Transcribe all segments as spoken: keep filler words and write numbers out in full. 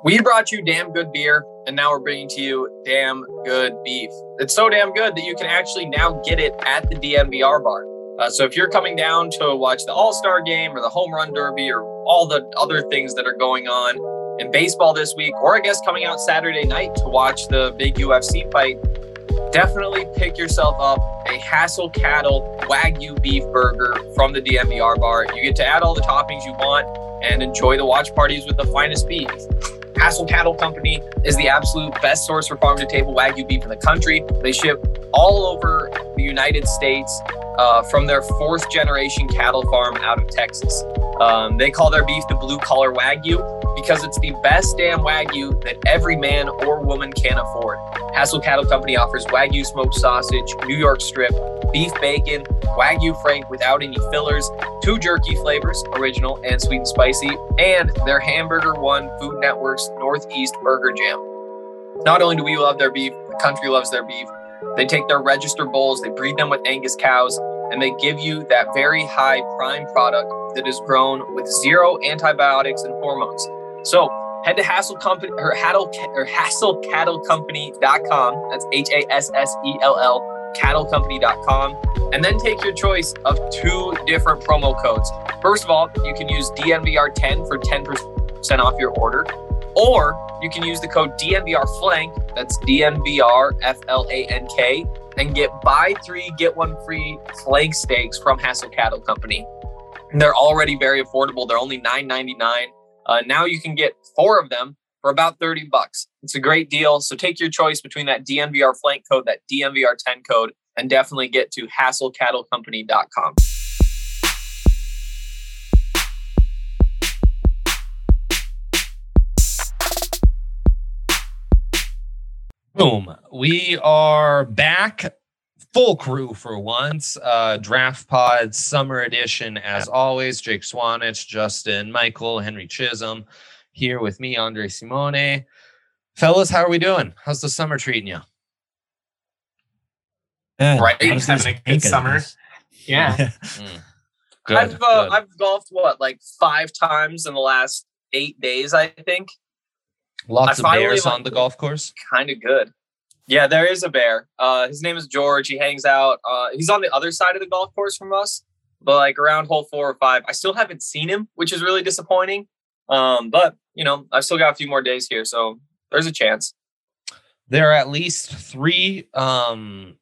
We brought you damn good beer, and now we're bringing to you damn good beef. It's so damn good that you can actually now get it at the D N V R bar. Uh, so if you're coming down to watch the All-Star game or the Home Run Derby or all the other things that are going on in baseball this week, or I guess coming out Saturday night to watch the big U F C fight, definitely pick yourself up a Hassel Cattle Wagyu beef burger from the D N V R bar. You get to add all the toppings you want and enjoy the watch parties with the finest beef. Hassel Cattle Company is the absolute best source for farm-to-table Wagyu beef in the country. They ship all over the United States uh, from their fourth-generation cattle farm out of Texas. Um, they call their beef the blue-collar Wagyu because it's the best damn Wagyu that every man or woman can afford. Hassel Cattle Company offers Wagyu smoked sausage, New York strip, beef bacon, Wagyu Frank without any fillers, two jerky flavors, original and sweet and spicy, and their Hamburger One Food Network's Northeast Burger Jam. Not only do we love their beef, the country loves their beef. They take their register bulls, they breed them with Angus cows, and they give you that very high prime product that is grown with zero antibiotics and hormones. So head to Hassel Company or Hassel or Hassel Cattle Company dot com. That's H A S S E L L Cattle Company dot com. And then take your choice of two different promo codes. First of all, you can use D N V R ten for ten percent off your order. Or you can use the code D N V R Flank, that's D N V R F L A N K, and get buy three, get one free flank steaks from Hassel Cattle Company. And they're already very affordable. They're only nine ninety-nine. Uh, now you can get four of them for about thirty bucks. It's a great deal. So take your choice between that D N V R Flank code, that D N V R ten code, and definitely get to Hassel Cattle Company dot com. Boom. We are back. Full crew for once. Uh, Draft Pod Summer Edition, as always. Jake Swanich, Justin Michael, Henry Chisholm, here with me, Andre Simone. Fellas, how are we doing? How's the summer treating you? Yeah, right, having a good summer. Yeah. mm. Good, I've uh, good. I've golfed what like five times in the last eight days, I think. Lots I of finally, bears like, on the golf course. Kind of good. Yeah, there is a bear. Uh, his name is George. He hangs out. Uh, he's on the other side of the golf course from us, but like around hole four or five. I still haven't seen him, which is really disappointing. Um, but you know, I've still got a few more days here, so there's a chance. There are at least three um,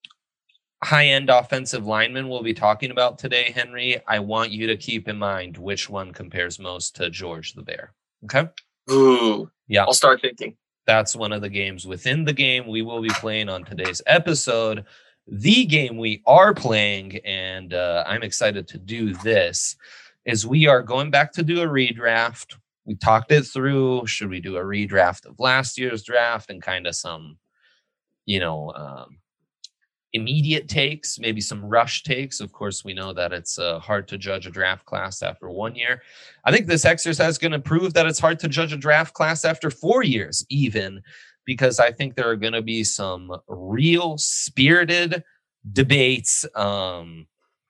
high-end offensive linemen we'll be talking about today, Henry. I want you to keep in mind which one compares most to George the Bear. Okay? Ooh, yeah. I'll start thinking. That's one of the games within the game we will be playing on today's episode. The game we are playing, and uh, I'm excited to do this, is we are going back to do a redraft. We talked it through. Should we do a redraft of last year's draft and kind of some, you know, um, immediate takes, maybe some rush takes. Of course, we know that it's uh, hard to judge a draft class after one year. I think this exercise is going to prove that it's hard to judge a draft class after four years, even, because I think there are going to be some real spirited debates um,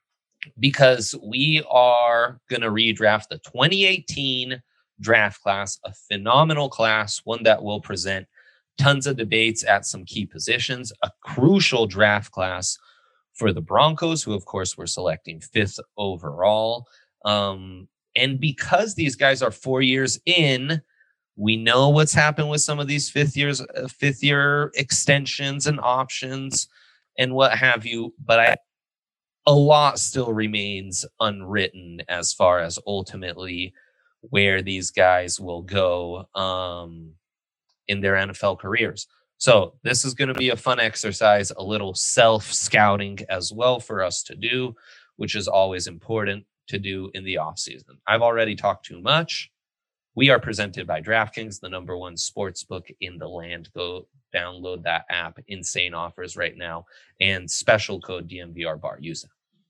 because we are going to redraft the twenty eighteen draft class, a phenomenal class, one that will present tons of debates at some key positions, a crucial draft class for the Broncos, who, of course, were selecting fifth overall. Um, and because these guys are four years in, we know what's happened with some of these fifth years, uh, fifth year extensions and options and what have you. But I, a lot still remains unwritten as far as ultimately where these guys will go Um, in their N F L careers. So this is going to be a fun exercise, a little self-scouting as well for us to do, which is always important to do in the offseason. I've already talked too much. We are presented by DraftKings, the number one sports book in the land. Go download that app. Insane offers right now. And special code D M V R bar. Use it.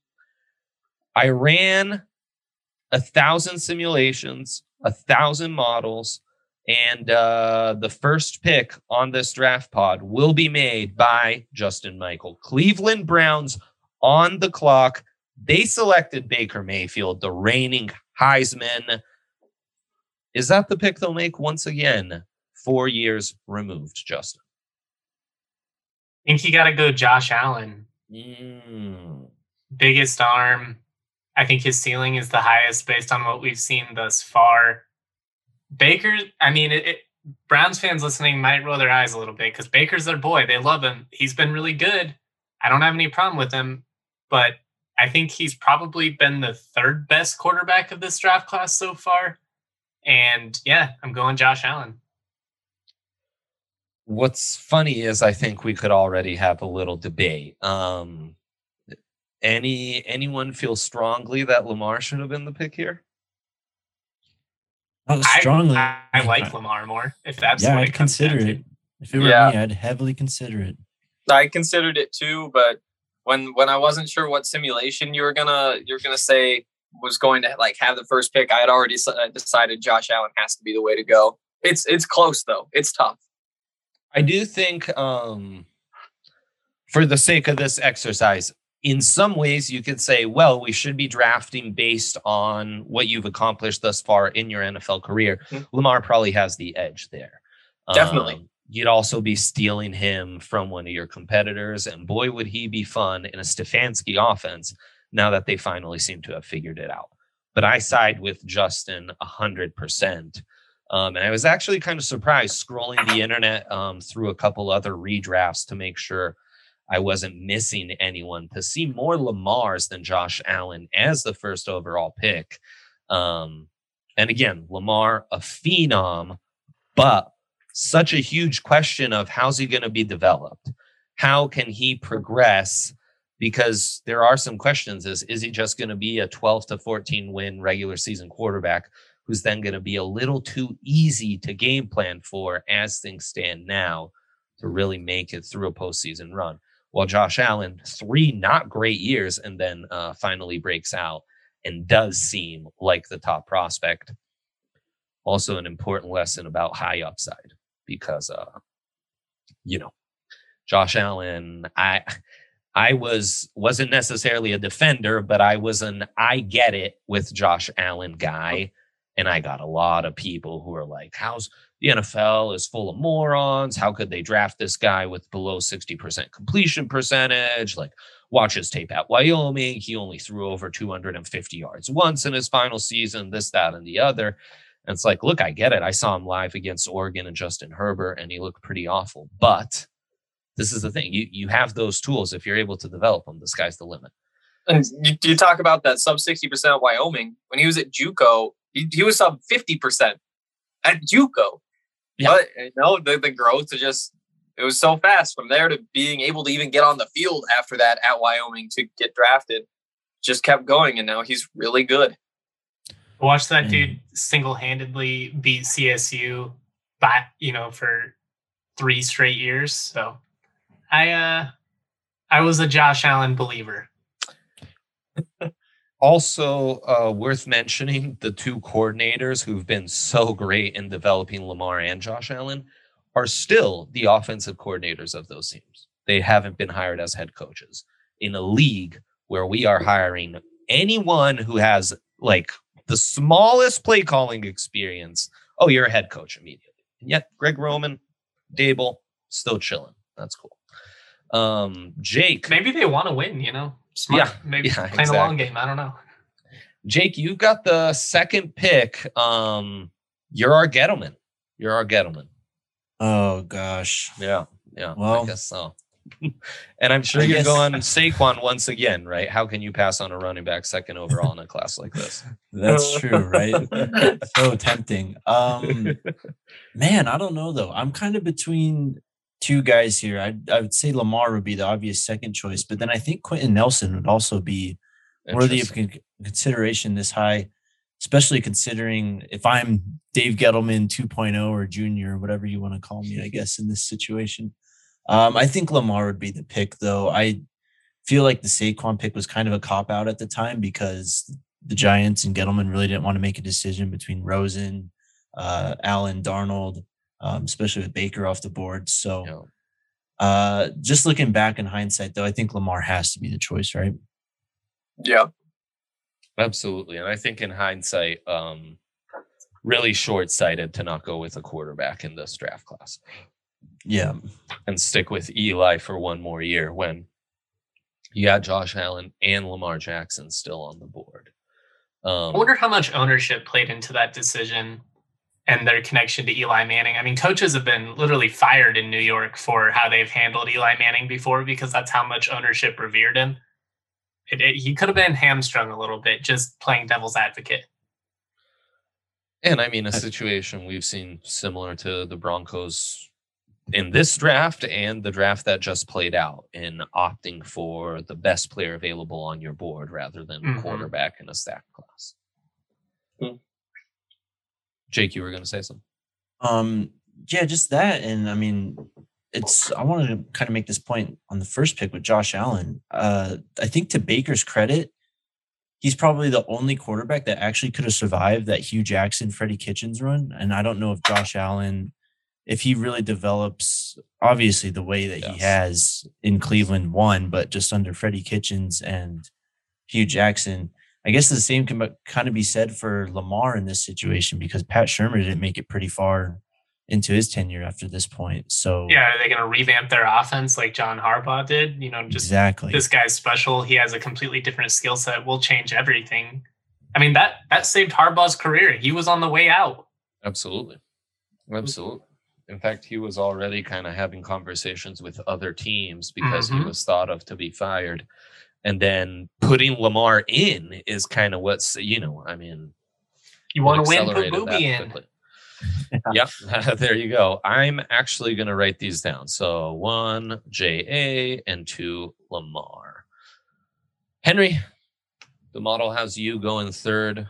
I ran a thousand simulations, a thousand models, and uh, the first pick on this draft pod will be made by Justin Michael. Cleveland Browns on the clock. They selected Baker Mayfield, the reigning Heisman Is that the pick they'll make once again? Four years removed, Justin. I think you got to go Josh Allen. Mm. Biggest arm. I think his ceiling is the highest based on what we've seen thus far. Baker, I mean, it, it, Browns fans listening might roll their eyes a little bit because Baker's their boy. They love him. He's been really good. I don't have any problem with him, but I think he's probably been the third best quarterback of this draft class so far. And yeah, I'm going Josh Allen. What's funny is I think we could already have a little debate. Um, any anyone feel strongly that Lamar should have been the pick here? Oh, strongly. I, I, I like Lamar more. If that's yeah, what I'd it comes consider down it. to. If it were Yeah. me, I'd heavily consider it. I considered it too, but when when I wasn't sure what simulation you were gonna you're gonna say was going to like have the first pick, I had already decided Josh Allen has to be the way to go. It's it's close though. It's tough. I do think, um, for the sake of this exercise, in some ways you could say, well, we should be drafting based on what you've accomplished thus far in your N F L career. Mm-hmm. Lamar probably has the edge there. Definitely. Um, you'd also be stealing him from one of your competitors, and boy, would he be fun in a Stefanski offense now that they finally seem to have figured it out. But I side with Justin one hundred percent. Um, and I was actually kind of surprised scrolling the internet um, through a couple other redrafts to make sure I wasn't missing anyone, to see more Lamars than Josh Allen as the first overall pick. Um, and again, Lamar, a phenom, but such a huge question of how's he going to be developed? How can he progress? Because there are some questions. Is, is he just going to be a twelve to fourteen win regular season quarterback who's then going to be a little too easy to game plan for as things stand now to really make it through a postseason run? While Josh Allen, three not great years, and then uh, finally breaks out and does seem like the top prospect. Also an important lesson about high upside because, uh, you know, Josh Allen, I I was, wasn't necessarily a defender, but I was an I get it with Josh Allen guy. And I got a lot of people who are like, how's the N F L is full of morons. How could they draft this guy with below sixty percent completion percentage? Like, watch his tape at Wyoming. He only threw over two hundred fifty yards once in his final season, this, that, and the other. And it's like, look, I get it. I saw him live against Oregon and Justin Herbert, and he looked pretty awful. But this is the thing. You, you have those tools. If you're able to develop them, the sky's the limit. And you, you talk about that sub sixty percent Wyoming. When he was at JUCO, he, he was sub fifty percent at JUCO. Yeah. But, you know, the, the growth is just, it was so fast from there to being able to even get on the field after that at Wyoming to get drafted. Just kept going, and now he's really good. Watch that dude single-handedly beat C S U by, you know, for three straight years. So I uh I was a Josh Allen believer. Also, uh, worth mentioning, the two coordinators who've been so great in developing Lamar and Josh Allen are still the offensive coordinators of those teams. They haven't been hired as head coaches in a league where we are hiring anyone who has like the smallest play calling experience. Oh, you're a head coach immediately. And yet Greg Roman, Dable, still chilling. That's cool. Um, Jake. Maybe they want to win, you know? Smart. Yeah, Maybe yeah, playing exactly. a long game. I don't know. Jake, you got the second pick. Um, you're our Gettleman. You're our Gettleman. Oh, gosh. Yeah, yeah. Well, I guess so. And I'm sure I you're guess- going Saquon once again, right? How can you pass on a running back second overall in a class like this? That's true, right? So tempting. Um, man, I don't know, though. I'm kind of between two guys here. I I would say Lamar would be the obvious second choice, but then I think Quentin Nelson would also be worthy of con- consideration this high, especially considering if I'm Dave Gettleman two point oh or junior, whatever you want to call me, I guess, in this situation. Um, I think Lamar would be the pick, though. I feel like the Saquon pick was kind of a cop-out at the time because the Giants and Gettleman really didn't want to make a decision between Rosen, uh, Allen, Darnold, um, especially with Baker off the board. So Yeah. uh, just looking back in hindsight, though, I think Lamar has to be the choice, right? Yeah. Absolutely. And I think in hindsight, um, really short-sighted to not go with a quarterback in this draft class. Yeah. And stick with Eli for one more year when you got Josh Allen and Lamar Jackson still on the board. Um, I wonder how much ownership played into that decision and their connection to Eli Manning. I mean, coaches have been literally fired in New York for how they've handled Eli Manning before because that's how much ownership revered him. It, it, he could have been hamstrung a little bit just playing devil's advocate. And I mean, a situation we've seen similar to the Broncos in this draft and the draft that just played out in opting for the best player available on your board rather than Mhm. quarterback in a stack class. Hmm. Jake, you were going to say something? Um, yeah, just that. And I mean, it's, I wanted to kind of make this point on the first pick with Josh Allen. Uh, I think to Baker's credit, he's probably the only quarterback that actually could have survived that Hugh Jackson, Freddie Kitchens run. And I don't know if Josh Allen, if he really develops, obviously the way that he Yes. has in Cleveland won, but just under Freddie Kitchens and Hugh Jackson, I guess the same can kind of be said for Lamar in this situation because Pat Shurmur didn't make it pretty far into his tenure after this point. So Yeah, are they going to revamp their offense like John Harbaugh did? You know, just exactly. this guy's special. He has a completely different skill set. We'll change everything. I mean, that that saved Harbaugh's career. He was on the way out. Absolutely. Absolutely. In fact, he was already kind of having conversations with other teams because he Mhm. was thought of to be fired. And then putting Lamar in is kind of what's, you know, I mean, You want to win, put accelerated that Booby in. quickly. Yep, there you go. I'm actually going to write these down. So one, J A, and two, Lamar. Henry, the model has you going third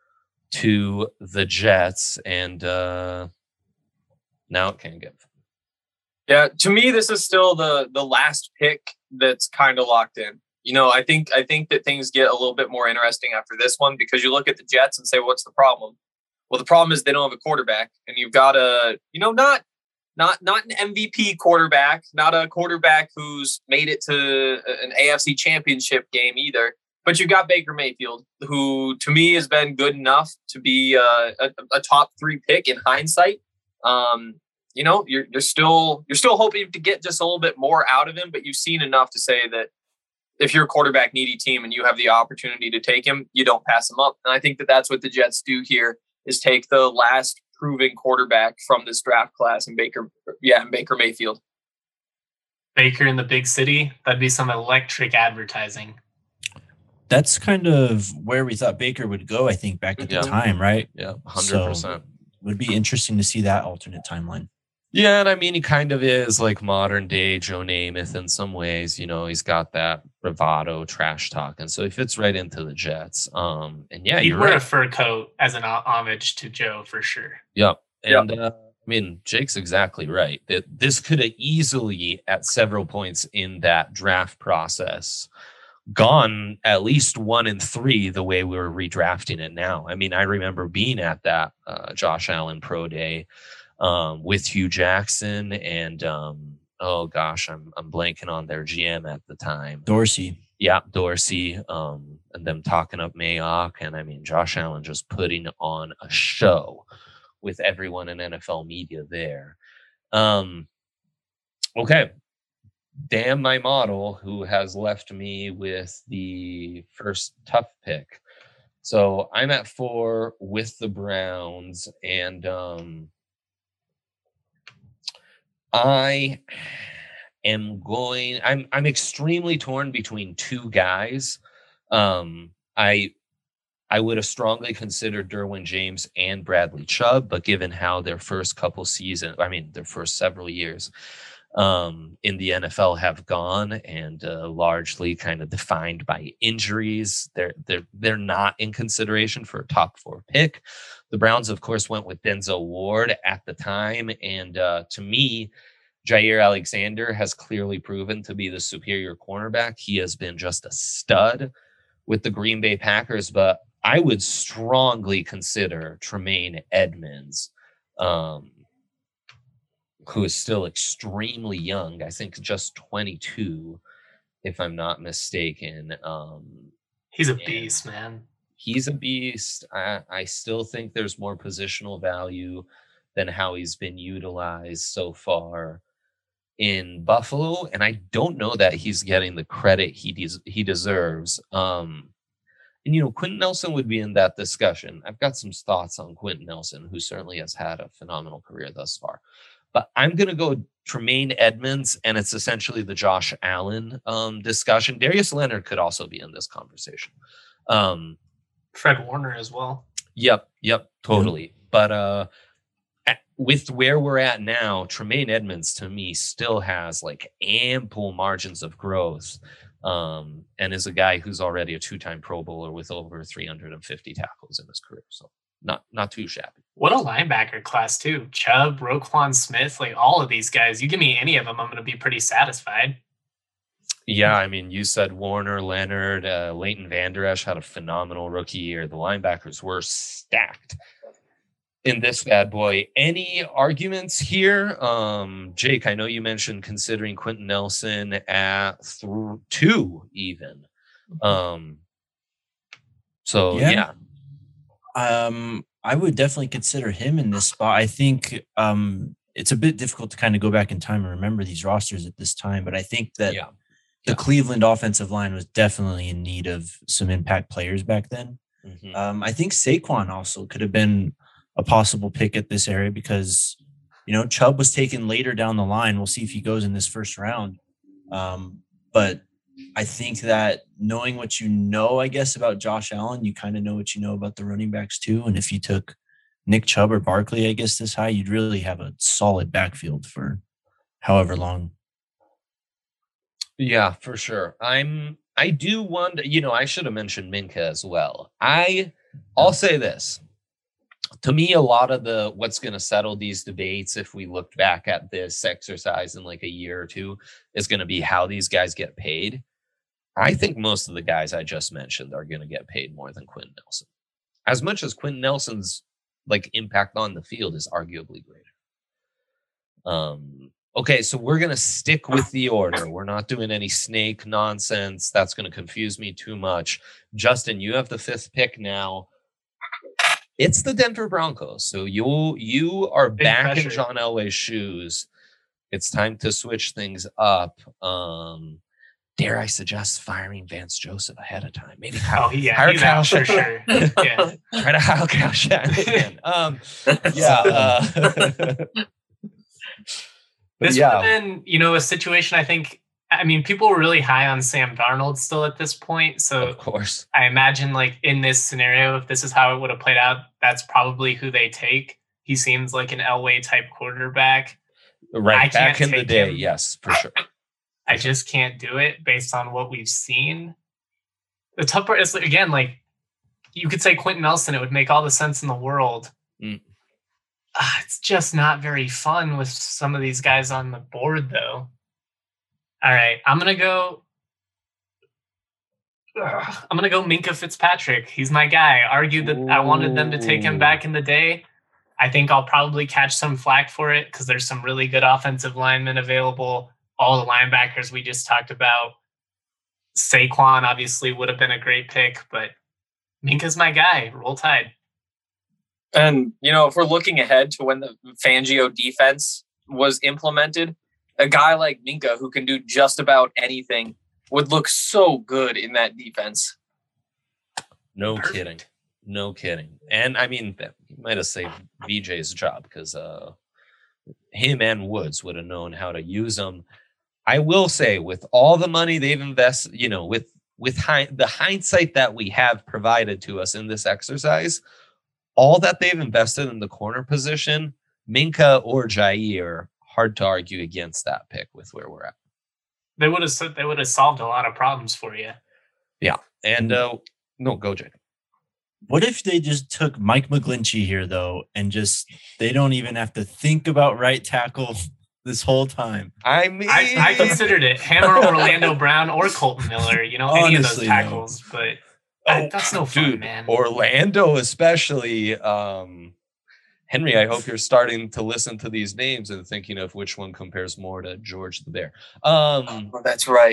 to the Jets, and uh, now it can get. Yeah, to me, this is still the the last pick that's kind of locked in. You know, I think I think that things get a little bit more interesting after this one because you look at the Jets and say, what's the problem? Well, the problem is they don't have a quarterback, and you've got a, you know, not not not an M V P quarterback, not a quarterback who's made it to an A F C Championship game either. But you've got Baker Mayfield, who to me has been good enough to be uh, a, a top three pick in hindsight. Um, you know, you're you're still you're still hoping to get just a little bit more out of him, but you've seen enough to say that if you're a quarterback needy team and you have the opportunity to take him, you don't pass him up. And I think that that's what the Jets do here is take the last proven quarterback from this draft class and Baker, yeah, and Baker Mayfield. Baker in the big city, that'd be some electric advertising. That's kind of where we thought Baker would go, I think, back at Yeah. the time, right? Yeah, one hundred percent. So, would be interesting to see that alternate timeline. Yeah, and I mean, he kind of is like modern day Joe Namath in some ways. You know, he's got that bravado, trash talk, and so he fits right into the Jets. Um, and yeah, He'd you're wear right. a fur coat as an ho- homage to Joe for sure. Yep. And uh, I mean, Jake's exactly right. That this could have easily, at several points in that draft process, gone at least one and three the way we were redrafting it now. I mean, I remember being at that uh, Josh Allen pro day um, with Hugh Jackson and um, oh gosh, I'm I'm blanking on their G M at the time. Dorsey. Yeah, Dorsey, um, and them talking up Mayock, and I mean Josh Allen just putting on a show with everyone in N F L media there. Um, okay, damn my model who has left me with the first tough pick. So I'm at four with the Browns, and um, I am going. I'm I'm extremely torn between two guys. Um, I I would have strongly considered Derwin James and Bradley Chubb, but given how their first couple seasons, I mean their first several years um, in the N F L have gone, and uh, largely kind of defined by injuries, they're they're they're not in consideration for a top four pick. The Browns, of course, went with Denzel Ward at the time, and uh, to me, Jair Alexander has clearly proven to be the superior cornerback. He has been just a stud with the Green Bay Packers, but I would strongly consider Tremaine Edmonds, um, who is still extremely young. I think just twenty-two, if I'm not mistaken. Um, He's a and- beast, man. he's a beast. I, I still think there's more positional value than how he's been utilized so far in Buffalo, and I don't know that he's getting the credit he des- he deserves. Um, and you know, Quentin Nelson would be in that discussion. I've got some thoughts on Quentin Nelson, who certainly has had a phenomenal career thus far. But I'm going to go Tremaine Edmonds, and it's essentially the Josh Allen um, discussion. Darius Leonard could also be in this conversation. Um, Fred Warner as well. Yep, yep, totally. Mm-hmm. But uh, at, with where we're at now, Tremaine Edmonds to me still has like ample margins of growth, um, and is a guy who's already a two-time Pro Bowler with over three hundred fifty tackles in his career. So not not too shabby. What a linebacker class too. Chubb, Roquan Smith, like all of these guys. You give me any of them, I'm going to be pretty satisfied. Yeah, I mean, you said Warner, Leonard, uh, Leighton Vander Esch had a phenomenal rookie year. The linebackers were stacked in this bad boy. Any arguments here? Um, Jake, I know you mentioned considering Quentin Nelson at th- two even. Um, so, yeah. yeah. Um, I would definitely consider him in this spot. I think um, it's a bit difficult to kind of go back in time and remember these rosters at this time, but I think that yeah. the yeah. Cleveland offensive line was definitely in need of some impact players back then. Mm-hmm. Um, I think Saquon also could have been a possible pick at this area because, you know, Chubb was taken later down the line. We'll see if he goes in this first round. Um, but I think that knowing what you know, I guess, about Josh Allen, you kind of know what you know about the running backs too. And if you took Nick Chubb or Barkley, I guess, this high, you'd really have a solid backfield for however long. Yeah, for sure. I'm, I do wonder, you know, I should have mentioned Minka as well. I, I'll say this. To me, a lot of the what's going to settle these debates, if we look back at this exercise in like a year or two, is going to be how these guys get paid. I think most of the guys I just mentioned are going to get paid more than Quentin Nelson. As much as Quentin Nelson's like impact on the field is arguably greater. Um, okay, so we're going to stick with the order. We're not doing any snake nonsense. That's going to confuse me too much. Justin, you have the fifth pick now. It's the Denver Broncos. So you you are Big back pressure. in John Elway's shoes. It's time to switch things up. Um, dare I suggest firing Vance Joseph ahead of time? Maybe Kyle. Oh, yeah, he's out for sure. Yeah. Try to Kyle Kyle Shanahan. Um, yeah. Uh, this yeah. would have been, you know, a situation I think, I mean, people were really high on Sam Darnold still at this point. So of course, I imagine like in this scenario, if this is how it would have played out, that's probably who they take. He seems like an Elway type quarterback. Right. Back in the day. Him. Yes, for sure. I just can't do it based on what we've seen. The tough part is, again, like you could say Quentin Nelson, it would make all the sense in the world. Mm. Uh, it's just not very fun with some of these guys on the board, though. All right, I'm going to go. Ugh, I'm going to go Minka Fitzpatrick. He's my guy. I argued that Ooh. I wanted them to take him back in the day. I think I'll probably catch some flack for it because there's some really good offensive linemen available. All the linebackers we just talked about. Saquon obviously would have been a great pick, but Minka's my guy. Roll Tide. And, you know, if we're looking ahead to when the Fangio defense was implemented, a guy like Minka who can do just about anything would look so good in that defense. No Perfect. kidding. No kidding. And, I mean, he might have saved V J's job because uh, him and Woods would have known how to use him. I will say, with all the money they've invested, you know, with with hi- the hindsight that we have provided to us in this exercise, all that they've invested in the corner position, Minka or Jair, hard to argue against that pick with where we're at. They would have they would have solved a lot of problems for you. Yeah, and uh, no, go Jake. What if they just took Mike McGlinchey here, though, and just they don't even have to think about right tackle this whole time? I mean, I, I considered it. Hammer Orlando Brown or Colton Miller, you know, any Honestly, of those tackles, no. but oh, that's no fun, dude, man. Orlando, especially. Um, Henry, I hope you're starting to listen to these names and thinking of which one compares more to George the Bear. Um, oh, that's right.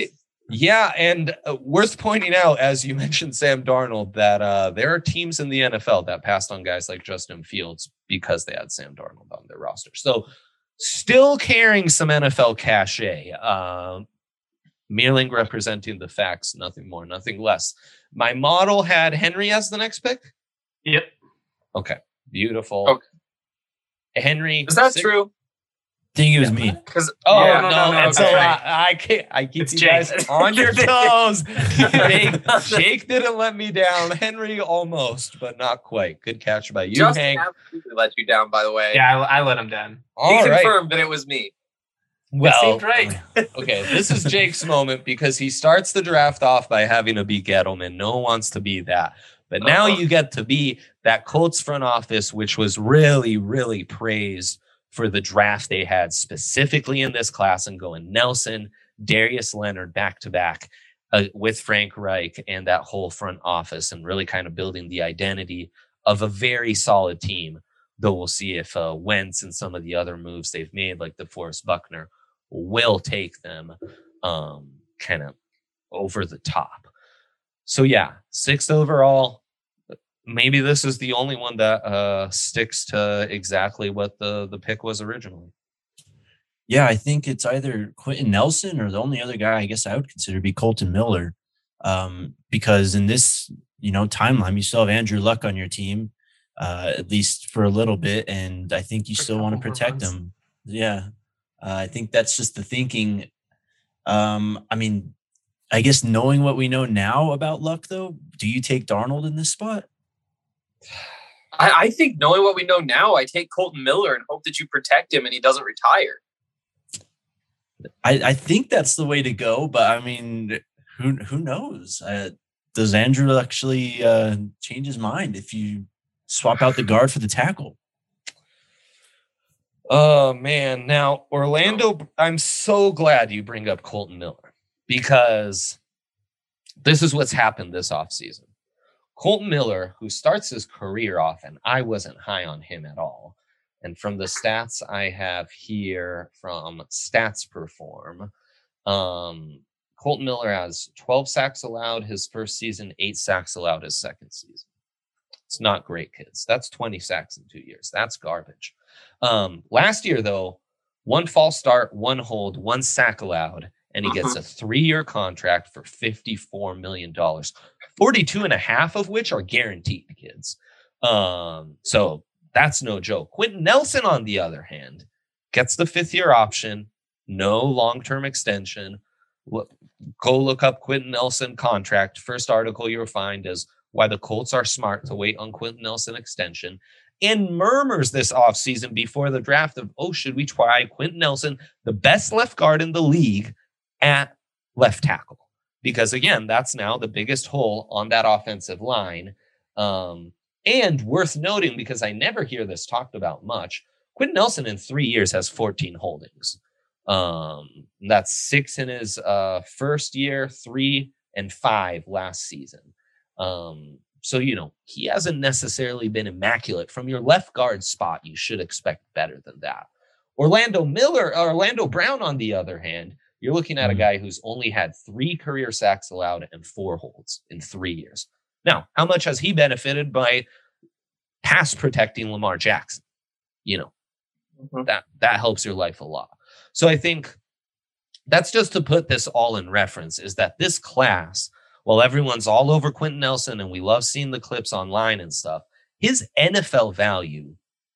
Yeah, and uh, worth pointing out, as you mentioned, Sam Darnold, that uh, there are teams in the N F L that passed on guys like Justin Fields because they had Sam Darnold on their roster. So still carrying some N F L cachet. Uh, Meerling representing the facts, nothing more, nothing less. My model had Henry as the next pick. Yep. Okay, beautiful. Okay. Henry. Is that six- true? I think it was me. Because Oh yeah, no, no, no, that's no, a okay. lot. I can't. I keep It's you Jake. guys on your toes. Jake, Jake didn't let me down. Henry almost, but not quite. Good catch by you, Justin Hank. absolutely let you down, by the way. Yeah, I, I let him down. He All right. confirmed that it was me. Well, it seemed right. okay, this is Jake's moment because he starts the draft off by having to be Gettleman. No one wants to be that. But now Uh-huh. you get to be that Colts front office, which was really, really praised for the draft they had specifically in this class and going Nelson, Darius Leonard back to back uh, with Frank Reich and that whole front office and really kind of building the identity of a very solid team. Though we'll see if uh, Wentz and some of the other moves they've made, like the Forrest Buckner, will take them um, kind of over the top. So yeah, sixth overall. Maybe this is the only one that uh, sticks to exactly what the, the pick was originally. Yeah, I think it's either Quentin Nelson or the only other guy I guess I would consider to be Colton Miller. Um, because in this, you know, timeline, you still have Andrew Luck on your team, uh, at least for a little bit. And I think you For a still want to couple more protect months. him. Yeah. Uh, I think that's just the thinking. Um, I mean, I guess knowing what we know now about Luck, though, do you take Darnold in this spot? I, I think knowing what we know now, I take Colton Miller and hope that you protect him and he doesn't retire. I, I think that's the way to go, but I mean, who who knows? Uh, does Andrew actually uh, change his mind if you swap out the guard for the tackle? Oh man. Now, Orlando, I'm so glad you bring up Colton Miller because this is what's happened this offseason. Colton Miller, who starts his career off, and I wasn't high on him at all. And from the stats I have here from Stats Perform, um, Colton Miller has twelve sacks allowed his first season, eight sacks allowed his second season. It's not great, kids. That's twenty sacks in two years. That's garbage. Um, last year, though, one false start, one hold, one sack allowed, and he gets a three-year contract for fifty-four million dollars, forty-two and a half of which are guaranteed, kids. Um, so that's no joke. Quentin Nelson, on the other hand, gets the fifth-year option, no long-term extension. Look, go look up Quentin Nelson contract. First article you'll find is why the Colts are smart to wait on Quentin Nelson extension. And murmurs this offseason before the draft of, oh, should we try Quentin Nelson, the best left guard in the league, at left tackle? Because, again, that's now the biggest hole on that offensive line. Um, and worth noting, because I never hear this talked about much, Quentin Nelson in three years has fourteen holdings. Um, that's six in his uh, first year, three and five last season. Um, so, you know, he hasn't necessarily been immaculate. From your left guard spot, you should expect better than that. Orlando Miller, Orlando Brown, on the other hand, you're looking at a guy who's only had three career sacks allowed and four holds in three years. Now, how much has he benefited by pass protecting Lamar Jackson? You know, mm-hmm. that, that helps your life a lot. So I think that's just to put this all in reference, is that this class, while everyone's all over Quentin Nelson and we love seeing the clips online and stuff, his N F L value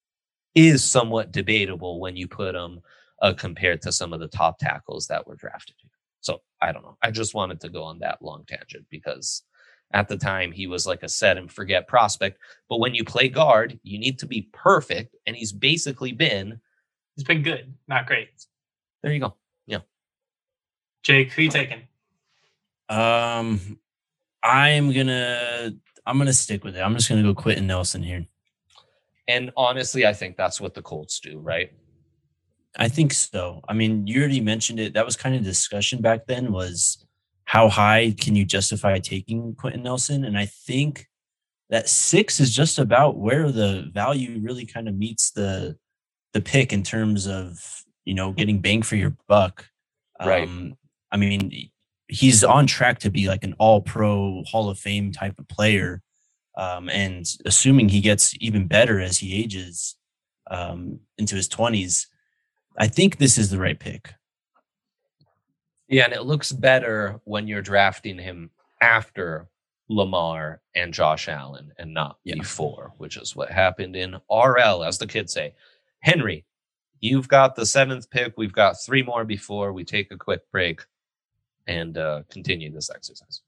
is somewhat debatable when you put him uh, compared to some of the top tackles that were drafted here. So I don't know. I just wanted to go on that long tangent because at the time he was like a set and forget prospect. But when you play guard, you need to be perfect. And he's basically been. He's been good, not great. There you go. Yeah. Jake, who you taking? Um, I'm gonna I'm gonna stick with it. I'm just gonna go Quentin Nelson here. And honestly, I think that's what the Colts do, right? I think so. I mean, you already mentioned it. That was kind of discussion back then, was how high can you justify taking Quentin Nelson? And I think that six is just about where the value really kind of meets the the pick in terms of, you know, getting bang for your buck. Right. Um, I mean, he's on track to be like an all-pro Hall of Fame type of player. Um, and assuming he gets even better as he ages um, into his twenties, I think this is the right pick. Yeah, and it looks better when you're drafting him after Lamar and Josh Allen and not yeah. before, which is what happened in R L, as the kids say. Henry, you've got the seventh pick. We've got three more before we take a quick break and uh, continue this exercise.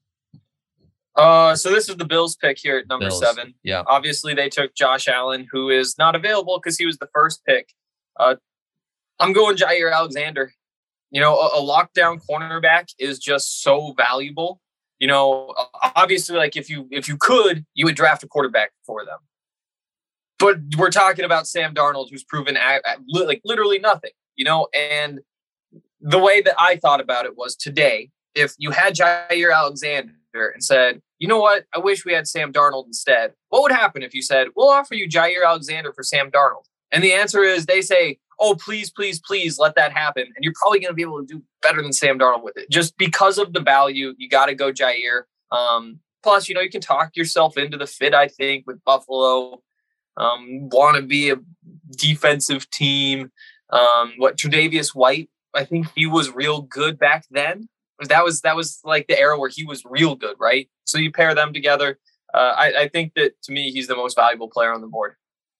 Uh, so this is the Bills pick here at number Bills. seven. Yeah. Obviously, they took Josh Allen, who is not available because he was the first pick. Uh, I'm going Jair Alexander. You know, a, a lockdown cornerback is just so valuable. You know, obviously, like if you if you could, you would draft a quarterback for them. But we're talking about Sam Darnold, who's proven at, at, like literally nothing. You know, and the way that I thought about it was today, if you had Jair Alexander and said, you know what, I wish we had Sam Darnold instead, what would happen if you said, we'll offer you Jair Alexander for Sam Darnold? And the answer is they say, oh, please, please, please let that happen. And you're probably going to be able to do better than Sam Darnold with it. Just because of the value, you got to go Jair. Um, plus, you know, you can talk yourself into the fit, I think, with Buffalo. Um, want to be a defensive team. Um, what, Tre'Davious White, I think he was real good back then. That was that was like the era where he was real good, right? So you pair them together. Uh, I, I think that, to me, he's the most valuable player on the board.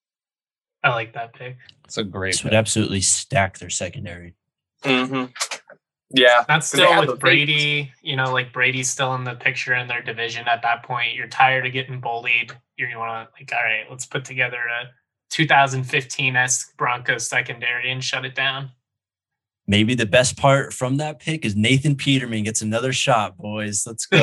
I like that pick. It's a great This pick. would absolutely stack their secondary. Mm-hmm. Yeah. That's still with Brady, you know, like Brady's still in the picture in their division at that point. You're tired of getting bullied. You're, you want to, like, all right, let's put together a two thousand fifteen-esque Broncos secondary and shut it down. Maybe the best part from that pick is Nathan Peterman gets another shot, boys. Let's go.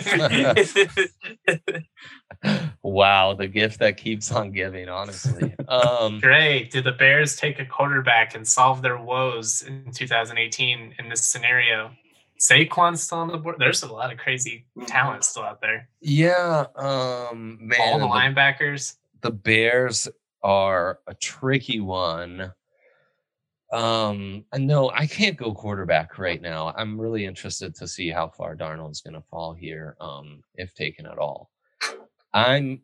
Wow, the gift that keeps on giving, honestly. Um, Great. Did the Bears take a quarterback and solve their woes in two thousand eighteen in this scenario? Saquon's still on the board. There's a lot of crazy talent still out there. yeah, um, man. All the the, linebackers. the Bears are a tricky one. Um, no, I can't go quarterback right now. I'm really interested to see how far Darnold's going to fall here, um, if taken at all. I'm,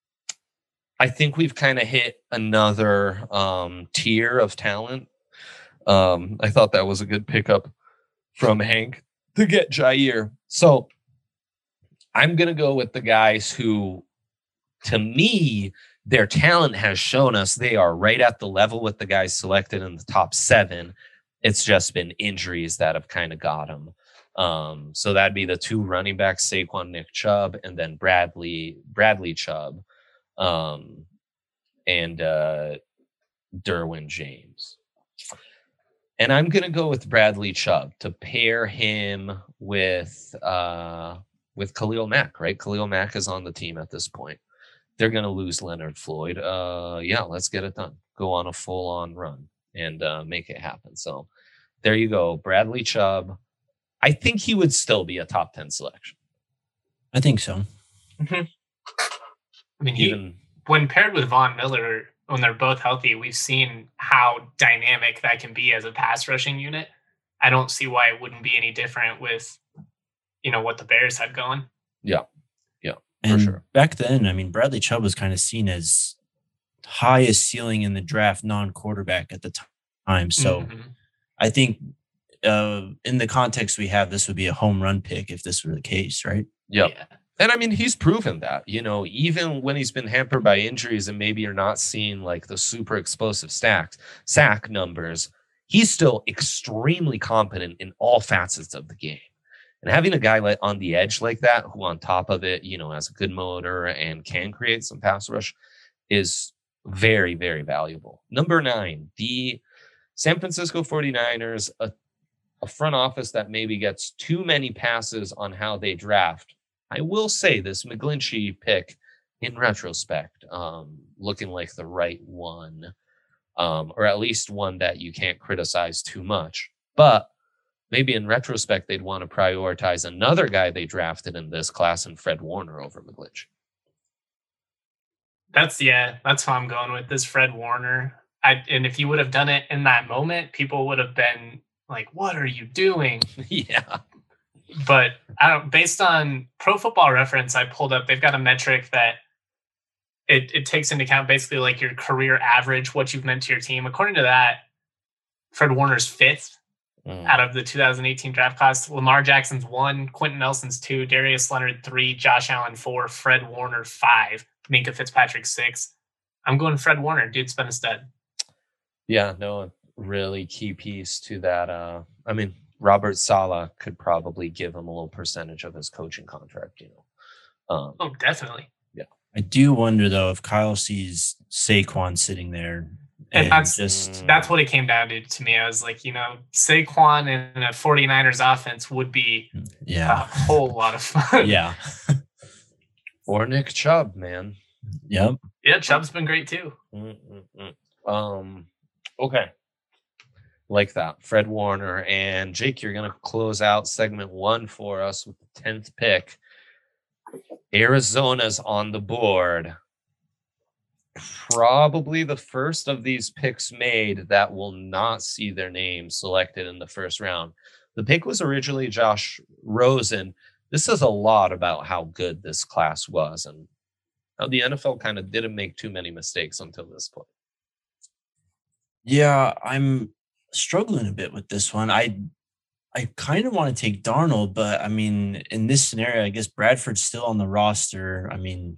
I think we've kind of hit another um, tier of talent. Um, I thought that was a good pickup from Hank to get Jair. So I'm going to go with the guys who, to me, their talent has shown us they are right at the level with the guys selected in the top seven. It's just been injuries that have kind of got them. Um, so that'd be the two running backs, Saquon, Nick Chubb, and then Bradley, Bradley Chubb, um, and uh, Derwin James. And I'm going to go with Bradley Chubb to pair him with uh, with Khalil Mack, right? Khalil Mack is on the team at this point. They're going to lose Leonard Floyd. Uh, yeah, let's get it done. Go on a full-on run and uh, make it happen. So there you go. Bradley Chubb. I think he would still be a top ten selection. I think so. Mm-hmm. I mean, he, Even, when paired with Von Miller, when they're both healthy, we've seen how dynamic that can be as a pass rushing unit. I don't see why it wouldn't be any different with, you know, what the Bears had going. Yeah. Yeah, and for sure. Back then, I mean, Bradley Chubb was kind of seen as highest ceiling in the draft non-quarterback at the time. So mm-hmm. I think uh, in the context we have, this would be a home run pick if this were the case, right? Yep. Yeah. And I mean, he's proven that, you know, even when he's been hampered by injuries and maybe you're not seeing like the super explosive stacks, sack numbers, he's still extremely competent in all facets of the game. And having a guy like on the edge like that, who on top of it, you know, has a good motor and can create some pass rush, is very, very valuable. Number nine, the San Francisco forty-niners, a, a front office that maybe gets too many passes on how they draft. I will say this McGlinchey pick, in retrospect, um, looking like the right one, um, or at least one that you can't criticize too much. But maybe in retrospect, they'd want to prioritize another guy they drafted in this class and Fred Warner over McGlinchey. That's, yeah, that's who I'm going with, this Fred Warner. I, and if you would have done it in that moment, people would have been like, what are you doing? Yeah. But I don't. Based on Pro Football Reference, I pulled up. They've got a metric that it it takes into account basically like your career average, what you've meant to your team. According to that, Fred Warner's fifth mm. out of the two thousand eighteen draft class. Lamar Jackson's one, Quentin Nelson's two, Darius Leonard three, Josh Allen four, Fred Warner five, Minkah Fitzpatrick six. I'm going Fred Warner. Dude's been a stud. Yeah, no, really key piece to that. Uh, I mean, Robert Saleh could probably give him a little percentage of his coaching contract, you know. Um, oh, definitely. Yeah. I do wonder, though, if Kyle sees Saquon sitting there. And, and that's just that's what it came down to to me. I was like, you know, Saquon in a 49ers offense would be yeah. a whole lot of fun. Yeah. Or Nick Chubb, man. Yep. Yeah, Chubb's been great, too. Mm-mm-mm. Um, okay. Like that, Fred Warner. And Jake, you're going to close out segment one for us with the tenth pick. Arizona's on the board. Probably the first of these picks made that will not see their name selected in the first round. The pick was originally Josh Rosen. This says a lot about how good this class was and how the N F L kind of didn't make too many mistakes until this point. Yeah, I'm struggling a bit with this one. I I kind of want to take Darnold, but I mean, in this scenario, I guess Bradford's still on the roster. I mean,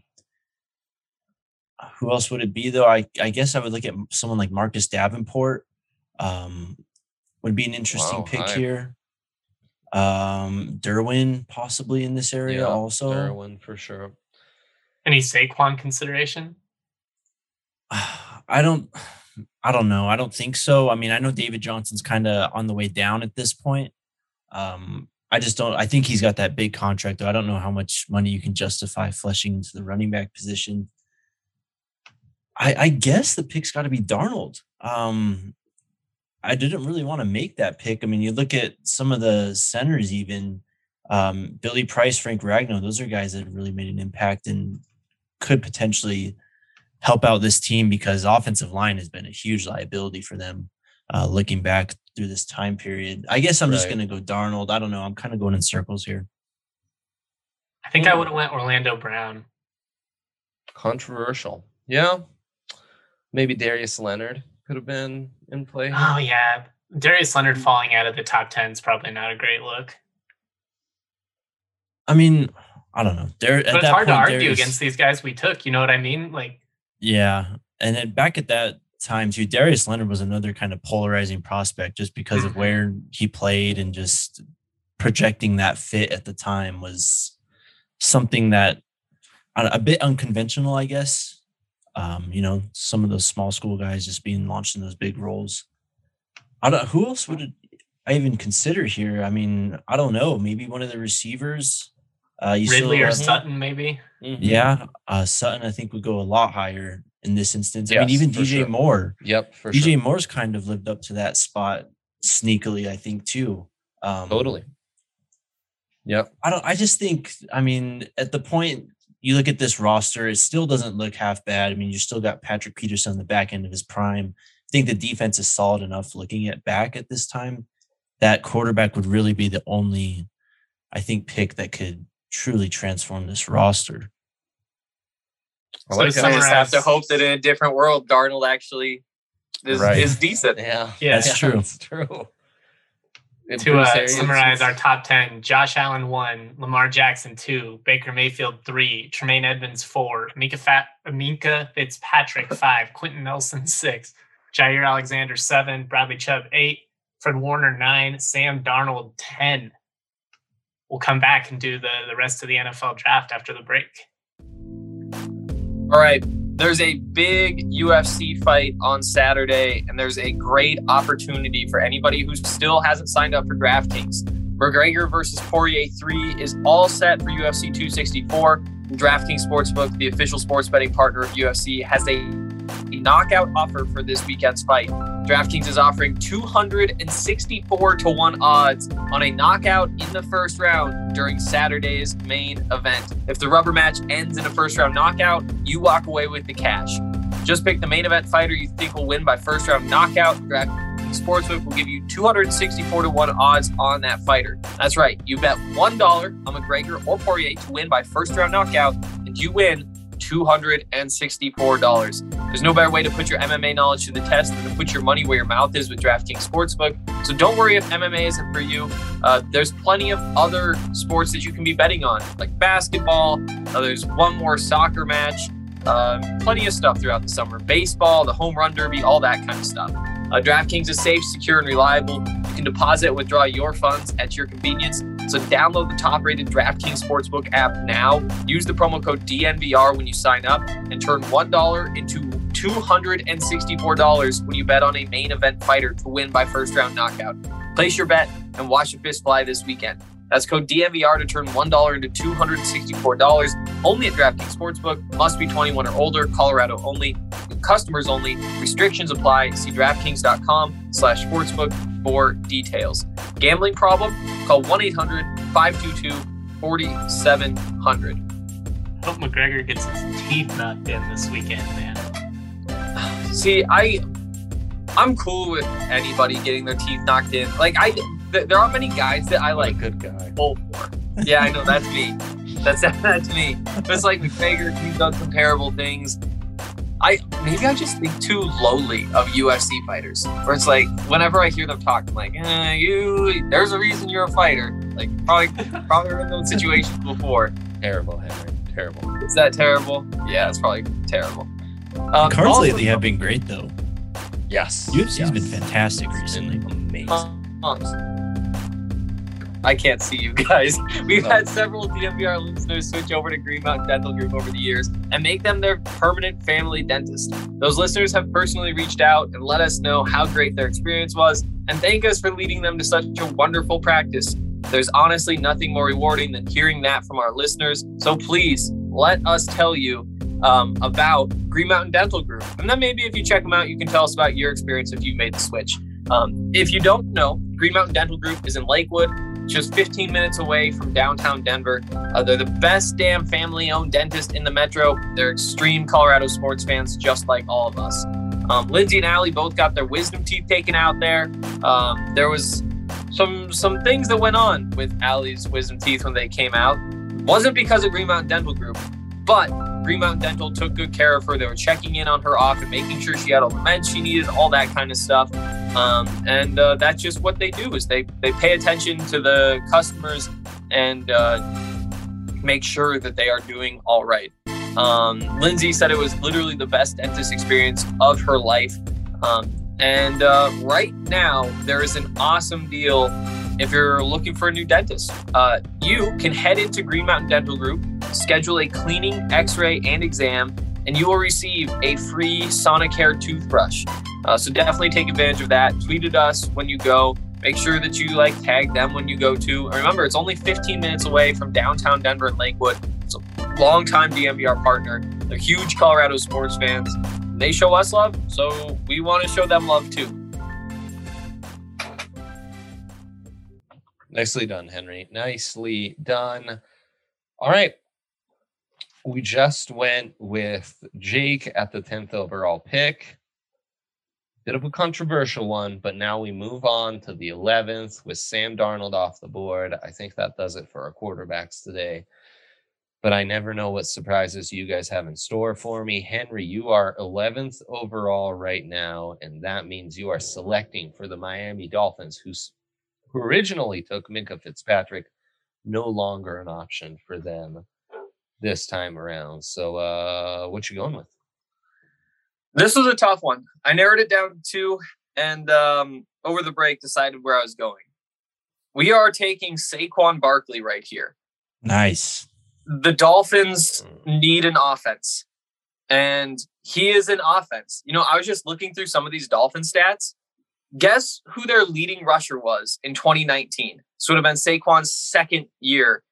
who else would it be, though? I, I guess I would look at someone like Marcus Davenport. Um, would be an interesting wow, pick I, here. Um, Derwin possibly in this area yeah, also. Derwin for sure. Any Saquon consideration? I don't, I don't know. I don't think so. I mean, I know David Johnson's kind of on the way down at this point. Um, I just don't. I think he's got that big contract, though. I don't know how much money you can justify fleshing into the running back position. I, I guess the pick's got to be Darnold. Um, I didn't really want to make that pick. I mean, you look at some of the centers, even um, Billy Price, Frank Ragnow. Those are guys that have really made an impact and could potentially help out this team because offensive line has been a huge liability for them. Uh, looking back through this time period, I guess I'm right. just going to go Darnold. I don't know. I'm kind of going in circles here. I think I would have went Orlando Brown. Controversial. Yeah. Maybe Darius Leonard could have been in play. Oh, yeah. Darius Leonard falling out of the top ten is probably not a great look. I mean, I don't know. There, but at it's that hard point, to argue Darius, against these guys we took. You know what I mean? Like, yeah. And then back at that time, too, Darius Leonard was another kind of polarizing prospect just because mm-hmm. of where he played and just projecting that fit at the time was something that a bit unconventional, I guess. Um, you know, some of those small school guys just being launched in those big roles. I don't. Who else would I even consider here? I mean, I don't know. Maybe one of the receivers. Uh, you Ridley still, or uh, Sutton, maybe. Mm-hmm. Yeah, uh, Sutton I think would go a lot higher in this instance. Yes, I mean, even D J sure. Moore. Yep, for D J sure. Moore's kind of lived up to that spot sneakily, I think, too. Um, totally. Yep. I don't. I just think. I mean, at the point. You look at this roster, it still doesn't look half bad. I mean, you still got Patrick Peterson on the back end of his prime. I think the defense is solid enough looking at back at this time. That quarterback would really be the only, I think, pick that could truly transform this roster. I like so I just have to hope that in a different world, Darnold actually is, right. is decent. Yeah, yeah, that's yeah, true. That's true. To uh, summarize our top ten, Josh Allen one, Lamar Jackson two, Baker Mayfield three, Tremaine Edmonds four, Minkah, Fat- Minkah Fitzpatrick five, Quentin Nelson six, Jair Alexander seven, Bradley Chubb eight, Fred Warner nine, Sam Darnold ten. We'll come back and do the, the rest of the N F L draft after the break. All right. There's a big U F C fight on Saturday, and there's a great opportunity for anybody who still hasn't signed up for DraftKings. McGregor versus Poirier three is all set for U F C two sixty-four. And DraftKings Sportsbook, the official sports betting partner of U F C, has a, a knockout offer for this weekend's fight. DraftKings is offering two hundred sixty-four to one odds on a knockout in the first round during Saturday's main event. If the rubber match ends in a first round knockout, you walk away with the cash. Just pick the main event fighter you think will win by first round knockout. DraftKings Sportsbook will give you two hundred sixty-four to one odds on that fighter. That's right. You bet one dollar on McGregor or Poirier to win by first round knockout, and you win two hundred sixty-four dollars. There's no better way to put your M M A knowledge to the test than to put your money where your mouth is with DraftKings Sportsbook. So don't worry if M M A isn't for you. Uh, there's plenty of other sports that you can be betting on, like basketball. Uh, there's one more soccer match. Uh, plenty of stuff throughout the summer. Baseball, the home run derby, all that kind of stuff. Uh, DraftKings is safe, secure, and reliable. You can deposit and withdraw your funds at your convenience. So download the top-rated DraftKings Sportsbook app now. Use the promo code D N V R when you sign up and turn one dollar into two hundred sixty-four dollars when you bet on a main event fighter to win by first-round knockout. Place your bet and watch the fist fly this weekend. That's code D N V R to turn one dollar into two hundred sixty-four dollars. Only at DraftKings Sportsbook. Must be twenty-one or older. Colorado only. Customers only. Restrictions apply. See DraftKings.com slash sportsbook for details. Gambling problem? Call one eight hundred five two two four seven zero zero. Hope McGregor gets his teeth knocked in this weekend, man. See, I, I'm cool with anybody getting their teeth knocked in. Like, I, th- there aren't many guys that I like. Good guy. Pull for. Yeah, I know that's me. That's that's me. But it's like McGregor. He's done some terrible things. I maybe I just think too lowly of U F C fighters. Where it's like whenever I hear them talk, I'm like, eh, you. There's a reason you're a fighter. Like probably probably in those situations before. Terrible, Henry. Terrible. Is that terrible? Yeah, it's probably terrible. Um, Cards also- lately have been great though. Yes. U F C's yes. been fantastic It's been recently. amazing. Uh, I can't see you guys. We've Oh. had several D M V R listeners switch over to Green Mountain Dental Group over the years and make them their permanent family dentist. Those listeners have personally reached out and let us know how great their experience was and thank us for leading them to such a wonderful practice. There's honestly nothing more rewarding than hearing that from our listeners. So please let us tell you um, about Green Mountain Dental Group. And then maybe if you check them out, you can tell us about your experience if you made the switch. Um, if you don't know, Green Mountain Dental Group is in Lakewood, just fifteen minutes away from downtown Denver. Uh, they're the best damn family-owned dentist in the metro. They're extreme Colorado sports fans, just like all of us. Um, Lindsay and Allie both got their wisdom teeth taken out there. Um, there was some some things that went on with Allie's wisdom teeth when they came out. Wasn't because of Green Mountain Dental Group, but Green Mountain Dental took good care of her. They were checking in on her often, making sure she had all the meds she needed, all that kind of stuff. Um, and uh, that's just what they do is they, they pay attention to the customers and uh, make sure that they are doing all right. Um, Lindsay said it was literally the best dentist experience of her life. Um, and uh, right now, there is an awesome deal if you're looking for a new dentist. Uh, you can head into Green Mountain Dental Group, schedule a cleaning, x-ray, and exam, and you will receive a free Sonicare toothbrush. Uh, so definitely take advantage of that. Tweet at us when you go. Make sure that you like tag them when you go too. And remember, it's only fifteen minutes away from downtown Denver and Lakewood. It's a longtime D M V R partner. They're huge Colorado sports fans. They show us love, so we want to show them love too. Nicely done, Henry. Nicely done. All right. We just went with Jake at the tenth overall pick. Bit of a controversial one, but now we move on to the eleventh with Sam Darnold off the board. I think that does it for our quarterbacks today. But I never know what surprises you guys have in store for me. Henry, you are eleventh overall right now, and that means you are selecting for the Miami Dolphins, who's, who originally took Minkah Fitzpatrick, no longer an option for them this time around. So uh, what you going with? This was a tough one. I narrowed it down to two, and um, over the break decided where I was going. We are taking Saquon Barkley right here. Nice. The Dolphins need an offense, and he is an offense. You know, I was just looking through some of these Dolphin stats. Guess who their leading rusher was in twenty nineteen? This would have been Saquon's second year.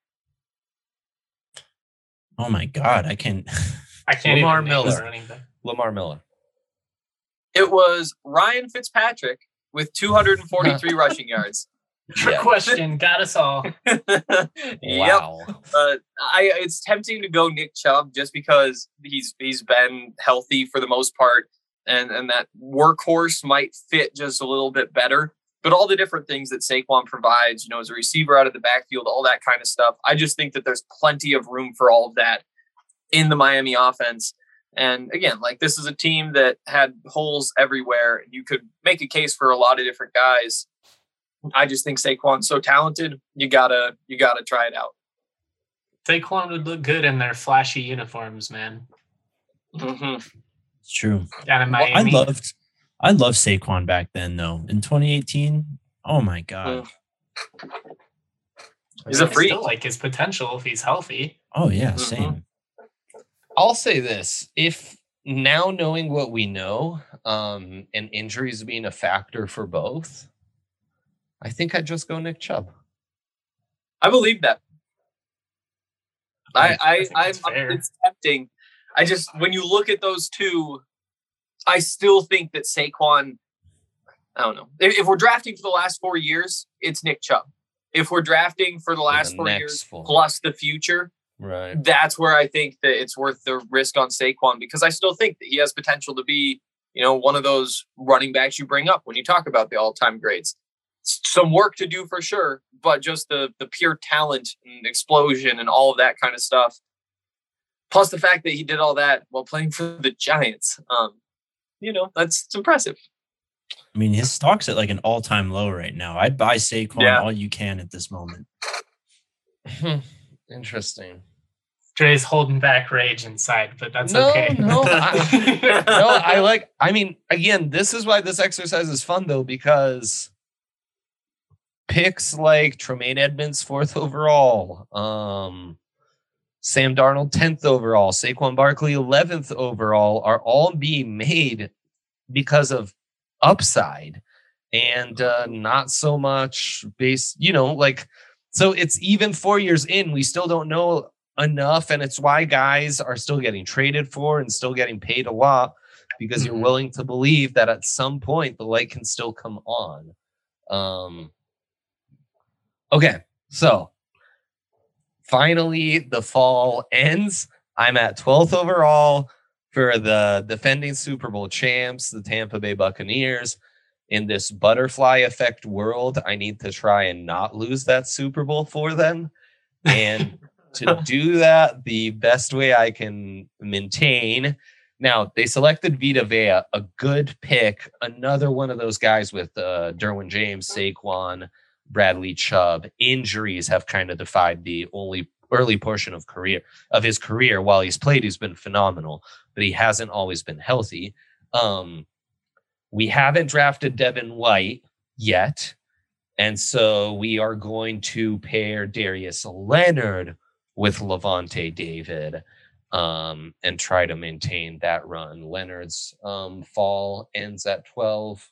Oh my God, I can. I can't Lamar even name Miller. the running back. Lamar Miller. It was Ryan Fitzpatrick with two hundred forty-three rushing yards. Trick Yeah. question, got us all. Yep. Wow. Uh, I it's tempting to go Nick Chubb just because he's he's been healthy for the most part. and, and that workhorse might fit just a little bit better. But all the different things that Saquon provides, you know, as a receiver out of the backfield, all that kind of stuff, I just think that there's plenty of room for all of that in the Miami offense. And again, like this is a team that had holes everywhere. You could make a case for a lot of different guys. I just think Saquon's so talented. You gotta, you gotta try it out. Saquon would look good in their flashy uniforms, man. Mm-hmm. It's true. Down in Well, I Miami. loved, I loved Saquon back then, though. In twenty eighteen, oh my god. Mm. He's a I freak. still like his potential if he's healthy. Oh yeah, Mhm. same. I'll say this: if now knowing what we know, um, and injuries being a factor for both, I think I'd just go Nick Chubb. I believe that. I, I I, think I, that's I fair. it's tempting. I just, when you look at those two, I still think that Saquon, I don't know. If, if we're drafting for the last four years, it's Nick Chubb. If we're drafting for the last the four next years four. plus the future, Right. that's where I think that it's worth the risk on Saquon, because I still think that he has potential to be, you know, one of those running backs you bring up when you talk about the all-time grades. S- Some work to do for sure, but just the the pure talent and explosion and all of that kind of stuff. Plus the fact that he did all that while playing for the Giants. Um, you know, that's it's impressive. I mean, his stock's at like an all-time low right now. I'd buy Saquon Yeah. all you can at this moment. Interesting. Dre's holding back rage inside, but that's No, okay. no, I- No, I like. I mean, again, this is why this exercise is fun, though, because picks like Tremaine Edmonds fourth overall, um, Sam Darnold tenth overall, Saquon Barkley eleventh overall are all being made because of upside and uh, not so much base. You know, like so. It's even four years in, we still don't know enough, and it's why guys are still getting traded for and still getting paid a lot, because you're Mhm. willing to believe that at some point the light can still come on. Um, okay, so finally the fall ends. I'm at twelfth overall for the defending Super Bowl champs, the Tampa Bay Buccaneers. In this butterfly effect world, I need to try and not lose that Super Bowl for them. And to do that, the best way I can maintain. Now, they selected Vita Vea, a good pick, another one of those guys with uh, Derwin James, Saquon, Bradley Chubb. Injuries have kind of defied the only early portion of career of his career. While he's played, he's been phenomenal, but he hasn't always been healthy. Um, we haven't drafted Devin White yet. And so we are going to pair Darius Leonard with Levante David um, and try to maintain that run. Leonard's um, fall ends at twelve.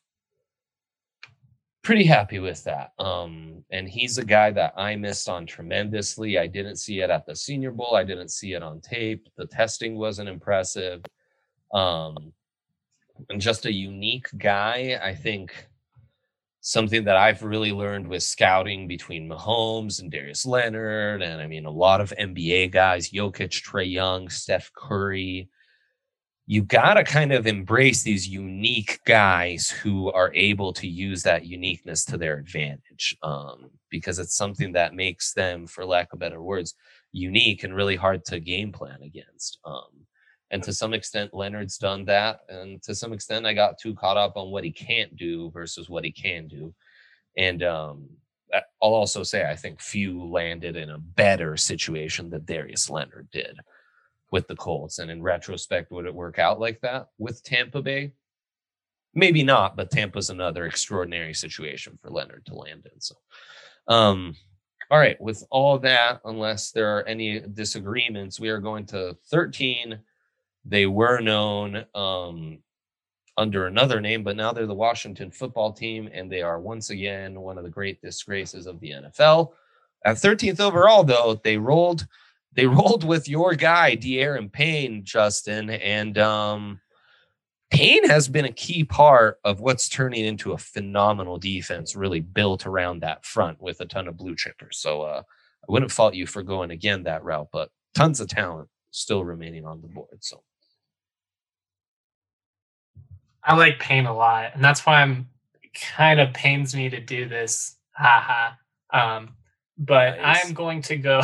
Pretty happy with that. Um, and he's a guy that I missed on tremendously. I didn't see it at the Senior Bowl. I didn't see it on tape. The testing wasn't impressive. Um, and just a unique guy, I think. Something that I've really learned with scouting between Mahomes and Darius Leonard, and I mean, a lot of N B A guys, Jokic, Trae Young, Steph Curry. You got to kind of embrace these unique guys who are able to use that uniqueness to their advantage, um, because it's something that makes them, for lack of better words, unique and really hard to game plan against. Um, And to some extent, Leonard's done that. And to some extent, I got too caught up on what he can't do versus what he can do. And um, I'll also say, I think few landed in a better situation than Darius Leonard did with the Colts. And in retrospect, would it work out like that with Tampa Bay? Maybe not, but Tampa's another extraordinary situation for Leonard to land in. So, um, all right, with all that, unless there are any disagreements, we are going to thirteen. They were known um, under another name, but now they're the Washington football team, and they are once again one of the great disgraces of the N F L. At thirteenth overall, though, they rolled they rolled with your guy, De'Aaron Payne, Justin, and um, Payne has been a key part of what's turning into a phenomenal defense, really built around that front with a ton of blue chippers. So uh, I wouldn't fault you for going again that route, but tons of talent still remaining on the board. So. I like Payne a lot, and that's why I'm kind of pains me to do this. Haha. Um, but Nice. I'm going to go.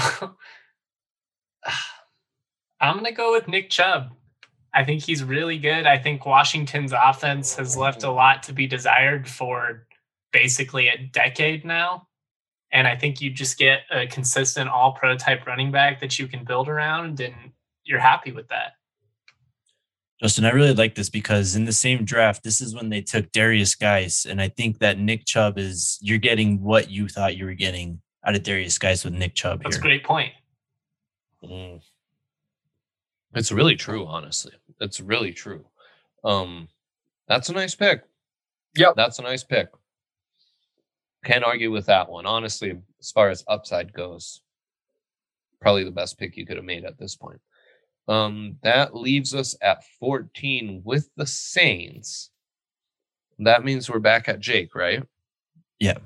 I'm going to go with Nick Chubb. I think he's really good. I think Washington's offense has left a lot to be desired for basically a decade now. And I think you just get a consistent all-pro type running back that you can build around, and you're happy with that. Justin, I really like this because in the same draft, this is when they took Darius Geis. And I think that Nick Chubb is, you're getting what you thought you were getting out of Darius Geis with Nick Chubb That's here. a great point. Mm. It's really true, honestly. It's really true. Um, that's a nice pick. Yep. That's a nice pick. Can't argue with that one. Honestly, as far as upside goes, probably the best pick you could have made at this point. Um, that leaves us at fourteen with the Saints. That means we're back at Jake, right? Yeah.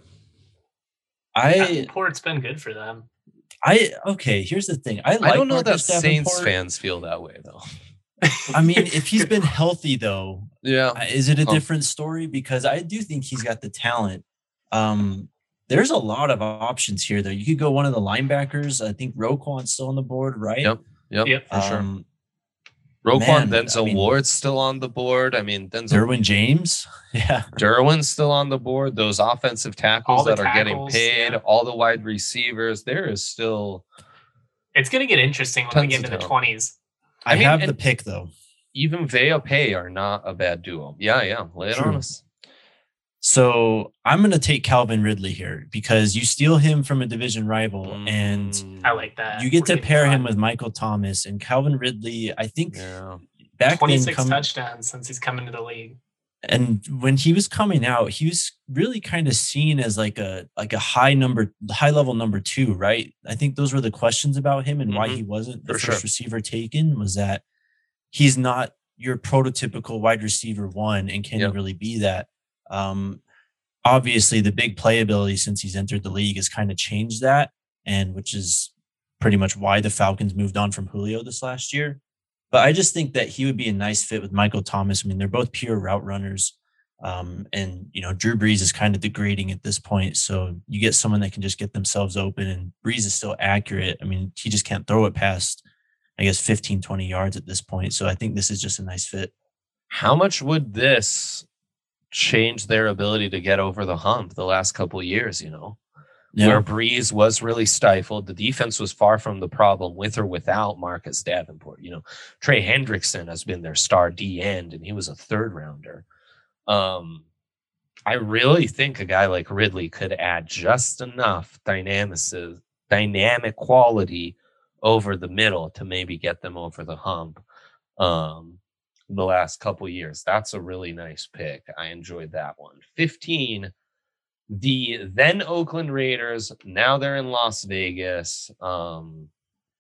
I Davenport's been good for them. I okay, here's the thing. I like I don't know Marcus that Saints Davenport. fans feel that way though. I mean, if he's been healthy though, Yeah. uh, is it a Oh. different story? Because I do think he's got the talent. Um, there's a lot of options here though. You could go one of the linebackers. I think Roquan's still on the board, right? Yep. Yep. Yep. For sure. Um, Roquan, man, Denzel I mean- Ward's still on the board. I mean, Denzel Derwin James. Yeah. Derwin's still on the board. Those offensive tackles All the that are getting tackles, paid, yeah. all the wide receivers. There is still It's going to get interesting when Tons we get of into the talent. twenties. I, I mean, have and- the pick though. even Vea Pay are not a bad duo. Yeah, yeah. Lay it True. on us. So I'm gonna take Calvin Ridley here because you steal him from a division rival and Mm, I like that. you get We're to getting pair him fun. with Michael Thomas and Calvin Ridley. I think Yeah. back then twenty-six come, touchdowns since he's come into the league. and when he was coming out, he was really kind of seen as like a like a high number, high level number two, right? I think those were the questions about him and why Mhm. he wasn't the For first sure. receiver taken was that he's not your prototypical wide receiver one, and can Yep. he really be that? Um, obviously, the big playability since he's entered the league has kind of changed that, and which is pretty much why the Falcons moved on from Julio this last year. But I just think that he would be a nice fit with Michael Thomas. I mean, they're both pure route runners. Um, and, you know, Drew Brees is kind of degrading at this point. So you get someone that can just get themselves open, and Brees is still accurate. I mean, he just can't throw it past, I guess, fifteen, twenty yards at this point. So I think this is just a nice fit. How much would this change their ability to get over the hump the last couple of years, you know? Where Breeze was really stifled. The defense was far from the problem with or without Marcus Davenport. You know, Trey Hendrickson has been their star D end, and he was a third rounder. Um, I really think a guy like Ridley could add just enough dynamic, dynamic quality over the middle to maybe get them over the hump. Um, the last couple years. That's a really nice pick. I enjoyed that one. fifteen. The then Oakland Raiders, now they're in Las Vegas. Um,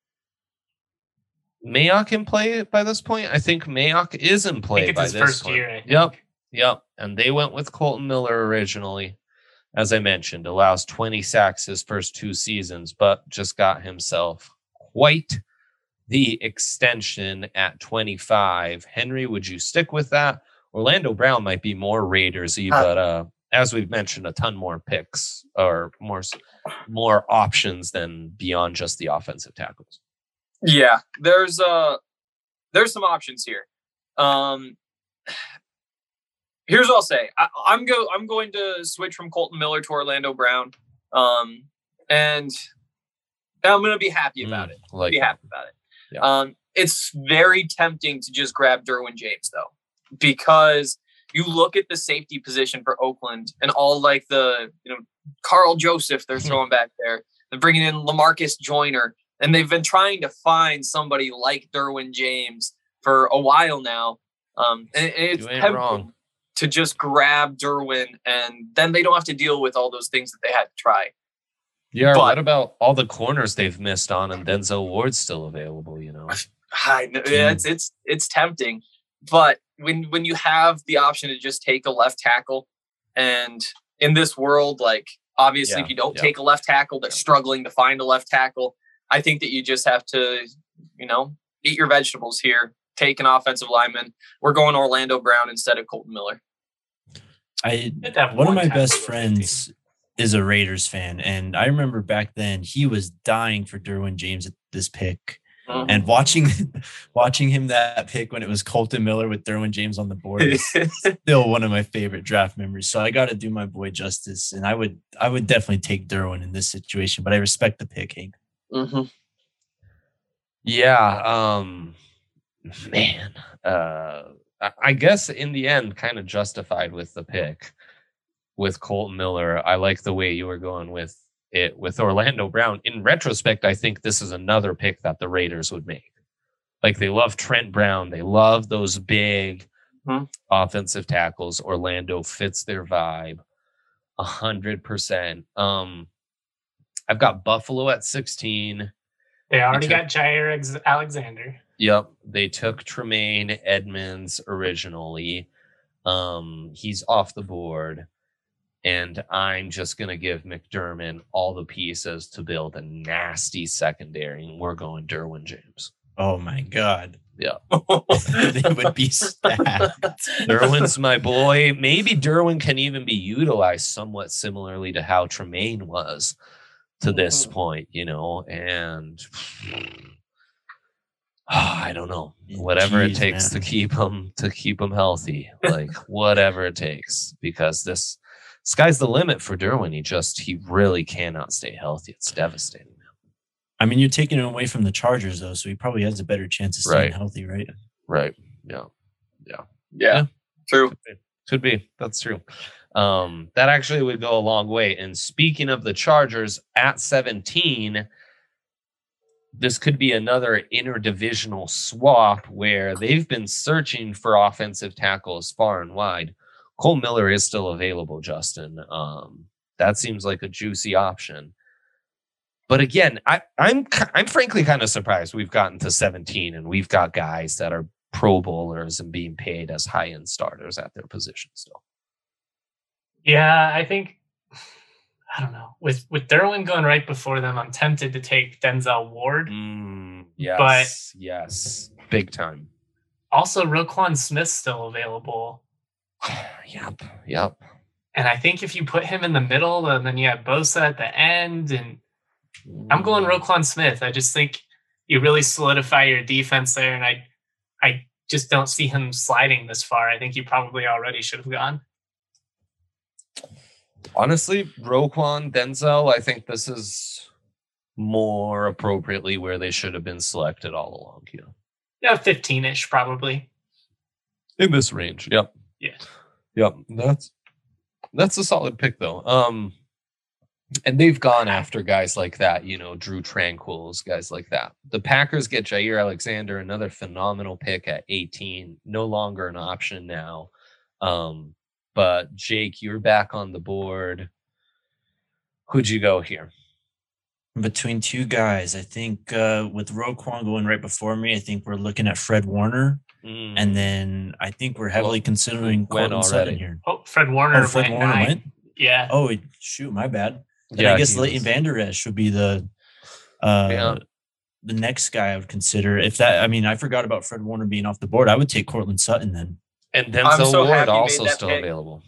Mayock in play by this point? I think Mayock is in I play think it's by his this first point. year. I think. Yep, yep. And they went with Colton Miller originally. As I mentioned, allows twenty sacks his first two seasons, but just got himself quite the extension at twenty-five. Henry, would you stick with that? Orlando Brown might be more Raidersy, Uh, but uh, as we've mentioned, a ton more picks or more more options than beyond just the offensive tackles. Yeah, there's uh there's some options here. Um, here's what I'll say. I, I'm go I'm going to switch from Colton Miller to Orlando Brown, um, and I'm going to be happy about Mm, it. like be that. happy about it. Yeah. Um, it's very tempting to just grab Derwin James though, because you look at the safety position for Oakland and all like the, you know, Carl Joseph they're throwing back there. They're bringing in LaMarcus Joyner, and they've been trying to find somebody like Derwin James for a while now. Um, and, and it's You ain't tempting wrong. to just grab Derwin, and then they don't have to deal with all those things that they had to try. Yeah, But- what about all the corners they've missed on and Denzel Ward's still available, you know? I know, yeah, it's it's it's tempting, but when when you have the option to just take a left tackle, and in this world, like obviously, Yeah, if you don't yeah. take a left tackle, they're Yeah. struggling to find a left tackle. I think that you just have to, you know, eat your vegetables here. take an offensive lineman. We're going Orlando Brown instead of Colton Miller. I You'd have one of one my tackle best over friends is a Raiders fan, and I remember back then he was dying for Derwin James at this pick. Mhm. And watching watching him that pick when it was Colton Miller with Derwin James on the board is still one of my favorite draft memories. So I got to do my boy justice, and I would I would definitely take Derwin in this situation. But I respect the pick, Hank. Mm-hmm. Yeah, um, man. Uh, I- I guess in the end, kind of justified with the pick with Colton Miller. I like the way you were going with it with Orlando Brown. In retrospect, I think this is another pick that the Raiders would make. Like, they love Trent Brown. They love those big Hmm. offensive tackles. Orlando fits their vibe a hundred percent. Um, I've got Buffalo at sixteen. They already took- got Jair Ex- Alexander. Yep, they took Tremaine Edmonds originally. Um, he's off the board. And I'm just going to give McDermott all the pieces to build a nasty secondary. And we're going Derwin James. Oh my God, Yeah. they would be stacked. Derwin's my boy. Maybe Derwin can even be utilized somewhat similarly to how Tremaine was to this Mhm. point, you know, and I don't know. Whatever it Jeez, takes man. to keep him to keep him healthy. Like whatever it takes. Because this sky's the limit for Derwin. He just he really cannot stay healthy. It's devastating. I mean, you're taking him away from the Chargers though, so he probably has a better chance of staying Right. healthy, right? Right. Yeah. Yeah, Yeah. true. Could be. That's true. Um, that actually would go a long way. And speaking of the Chargers at seventeen, this could be another interdivisional swap where they've been searching for offensive tackles far and wide. Cole Miller is still available, Justin. Um, that seems like a juicy option. But again, I, I'm I'm frankly kind of surprised we've gotten to seventeen and we've got guys that are Pro Bowlers and being paid as high end starters at their position still. Yeah, I think I don't know. With with Derwin going right before them, I'm tempted to take Denzel Ward. Mm, yes, yes, big time. Also, Roquan Smith's still available. Yep, yep. And I think if you put him in the middle and then you have Bosa at the end, and I'm going Roquan Smith. I just think you really solidify your defense there, and I I just don't see him sliding this far. I think he probably already should have gone. Honestly, Roquan, Denzel, I think this is more appropriately where they should have been selected all along. Yeah, Yeah, fifteen-ish probably. in this range. Yep. Yeah. Yep. That's that's a solid pick though. Um, and they've gone after guys like that, you know, Drew Tranquils, guys like that. The Packers get Jair Alexander, another phenomenal pick at eighteen, no longer an option now. Um, but Jake, you're back on the board. Who'd you go here? Between two guys, I think uh, with Roquan going right before me, I think we're looking at Fred Warner. Mm. And then I think we're heavily Well, considering went Courtland Sutton already. here. Oh, Fred Warner Oh, Fred went Warner nine. went? Yeah. Oh, shoot, my bad. Then Yeah, I guess he Leighton was- Vander Esch would be the uh, Yeah. the next guy I would consider. If that, I mean, I forgot about Fred Warner being off the board. I would take Courtland Sutton then. And I'm Denzel so Ward happy you also made that still pick. available.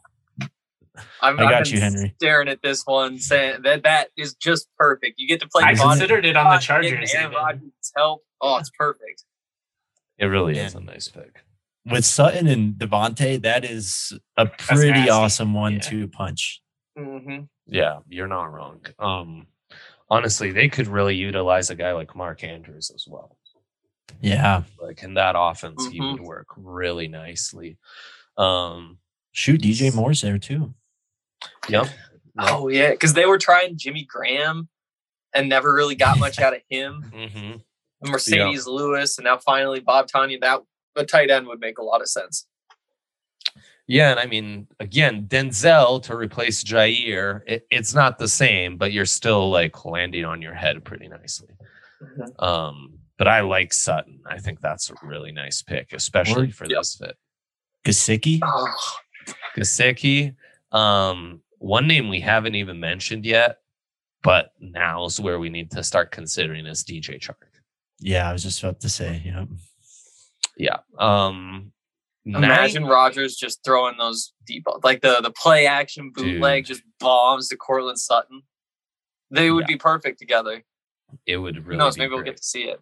I'm, I I've got been you, Henry. staring at this one, saying that that is just perfect. You get to play. I Isn't it- considered it on the Devontae Chargers. and even. Rodgers' help. Oh, it's perfect. It really Man. is a nice pick. With Sutton and Devontae, that is a pretty nasty. awesome one Yeah. two punch. Mm-hmm. Yeah, you're not wrong. Um, honestly, they could really utilize a guy like Mark Andrews as well. Yeah. Like in that offense, he Mhm. would work really nicely. Um, Shoot, D J Moore's there too. yep. Oh yeah, because they were trying Jimmy Graham and never really got much out of him. hmm Mercedes Lewis, and now finally Bob Tanya. That a tight end would make a lot of sense. Yeah, and I mean, again, Denzel to replace Jair, it, it's not the same, but you're still like landing on your head pretty nicely. Mhm. Um, but I like Sutton. I think that's a really nice pick, especially Or- for Yep. this fit. Gasicki. Oh, Gesicki, um, one name we haven't even mentioned yet, but now's where we need to start considering is D J Chark. Yeah, I was just about to say, yeah. Yeah. Um, Imagine nine, Rodgers just throwing those deep, like the, the play action bootleg, Dude. just bombs to Cortland Sutton. They would Yeah. be perfect together. it would really Who knows? be Maybe we'll great. get to see it.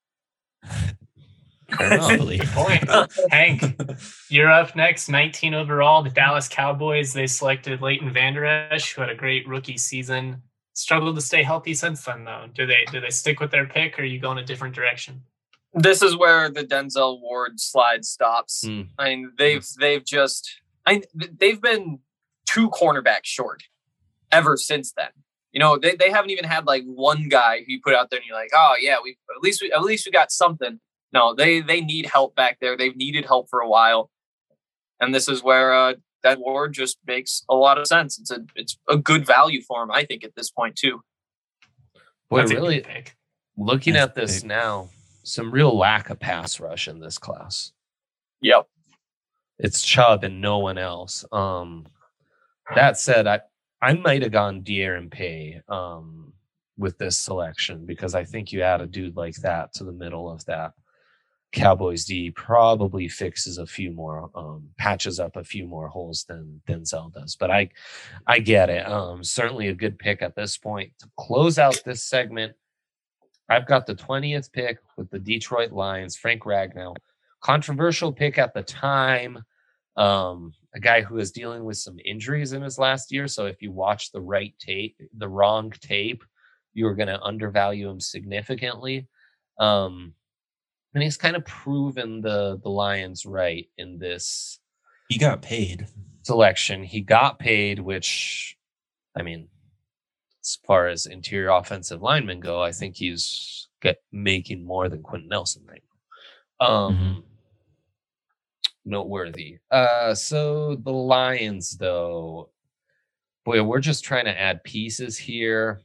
Fair enough. Hopefully. Good point. Hank, you're up next. nineteen overall, the Dallas Cowboys. They selected Leighton Vander Esch, who had a great rookie season. Struggled to stay healthy since then, though. Do they do they stick with their pick, or are you going a different direction? This is where the Denzel Ward slide stops. Hmm. I mean, they've they've just I they've been two cornerbacks short ever since then. You know, they, they haven't even had like one guy who you put out there and you're like, oh yeah, we at least we at least we got something. No, they they need help back there. They've needed help for a while, and this is where uh, that Ward just makes a lot of sense. It's a it's a good value for him, I think, at this point too. Boy, That's a good really pick. looking Nice at this pick. now, some real lack of pass rush in this class. Yep. It's Chubb and no one else. Um, that said, I I might have gone De'Aaron Pay um, with this selection because I think you add a dude like that to the middle of that Cowboys D probably fixes a few more, um, patches up a few more holes than Denzel does. But I, I get it. Um, certainly a good pick at this point to close out this segment. I've got the twentieth pick with the Detroit Lions, Frank Ragnow. Controversial pick at the time. Um, a guy who is dealing with some injuries in his last year. So if you watch the right tape, the wrong tape, you're going to undervalue him significantly. Um, and he's kind of proven the the Lions right in this He got paid. selection. He got paid, which, I mean, as far as interior offensive linemen go, I think he's get, making more than Quentin Nelson right now. Um, Mhm. Noteworthy. Uh, so the Lions, though, boy, we're just trying to add pieces here.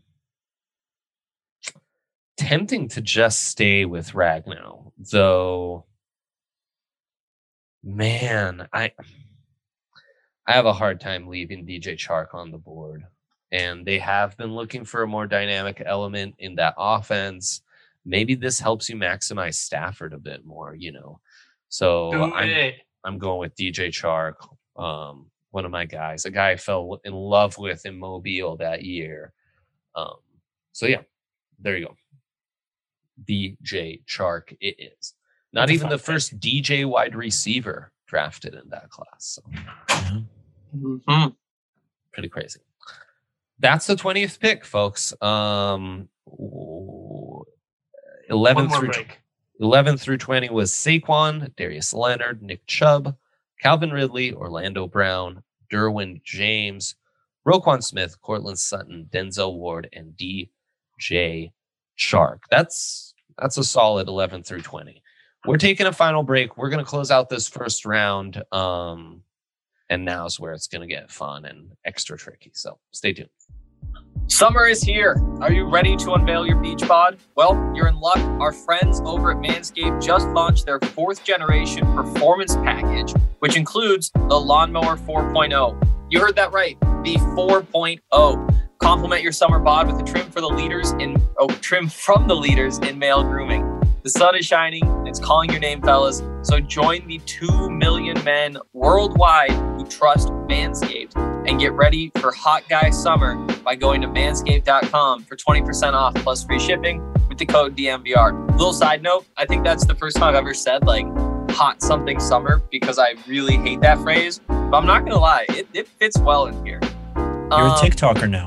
Tempting to just stay with Ragnow, though. Man, I I have a hard time leaving D J Chark on the board, and they have been looking for a more dynamic element in that offense. Maybe this helps you maximize Stafford a bit more, you know. So Do I'm it. I'm going with D J Chark, um, one of my guys, a guy I fell in love with in Mobile that year. Um, so yeah, there you go. D J Chark it is. Not That's a even fun the pick. first D J wide receiver drafted in that class. So Yeah. Mm-hmm. pretty crazy. That's the twentieth pick, folks. Um, eleven One more through break. eleven through twenty was Saquon, Darius Leonard, Nick Chubb, Calvin Ridley, Orlando Brown, Derwin James, Roquan Smith, Cortland Sutton, Denzel Ward, and D J Chark. That's that's a solid eleven through twenty. We're taking a final break. We're going to close out this first round. Um, and now's where it's going to get fun and extra tricky. So stay tuned. Summer is here. Are you ready to unveil your beach bod? Well, you're in luck. Our friends over at Manscaped just launched their fourth generation performance package, which includes the Lawnmower four point oh. You heard that right, the four point oh. Complement your summer bod with a trim for the leaders in oh, trim from the leaders in male grooming. The sun is shining, and it's calling your name, fellas. So join the two million men worldwide who trust Manscaped and get ready for hot guy summer by going to manscaped dot com for twenty percent off plus free shipping with the code D M V R. Little side note, I think that's the first time I've ever said like hot something summer because I really hate that phrase. But I'm not gonna lie, it, it fits well in here. You're Um, a TikToker now.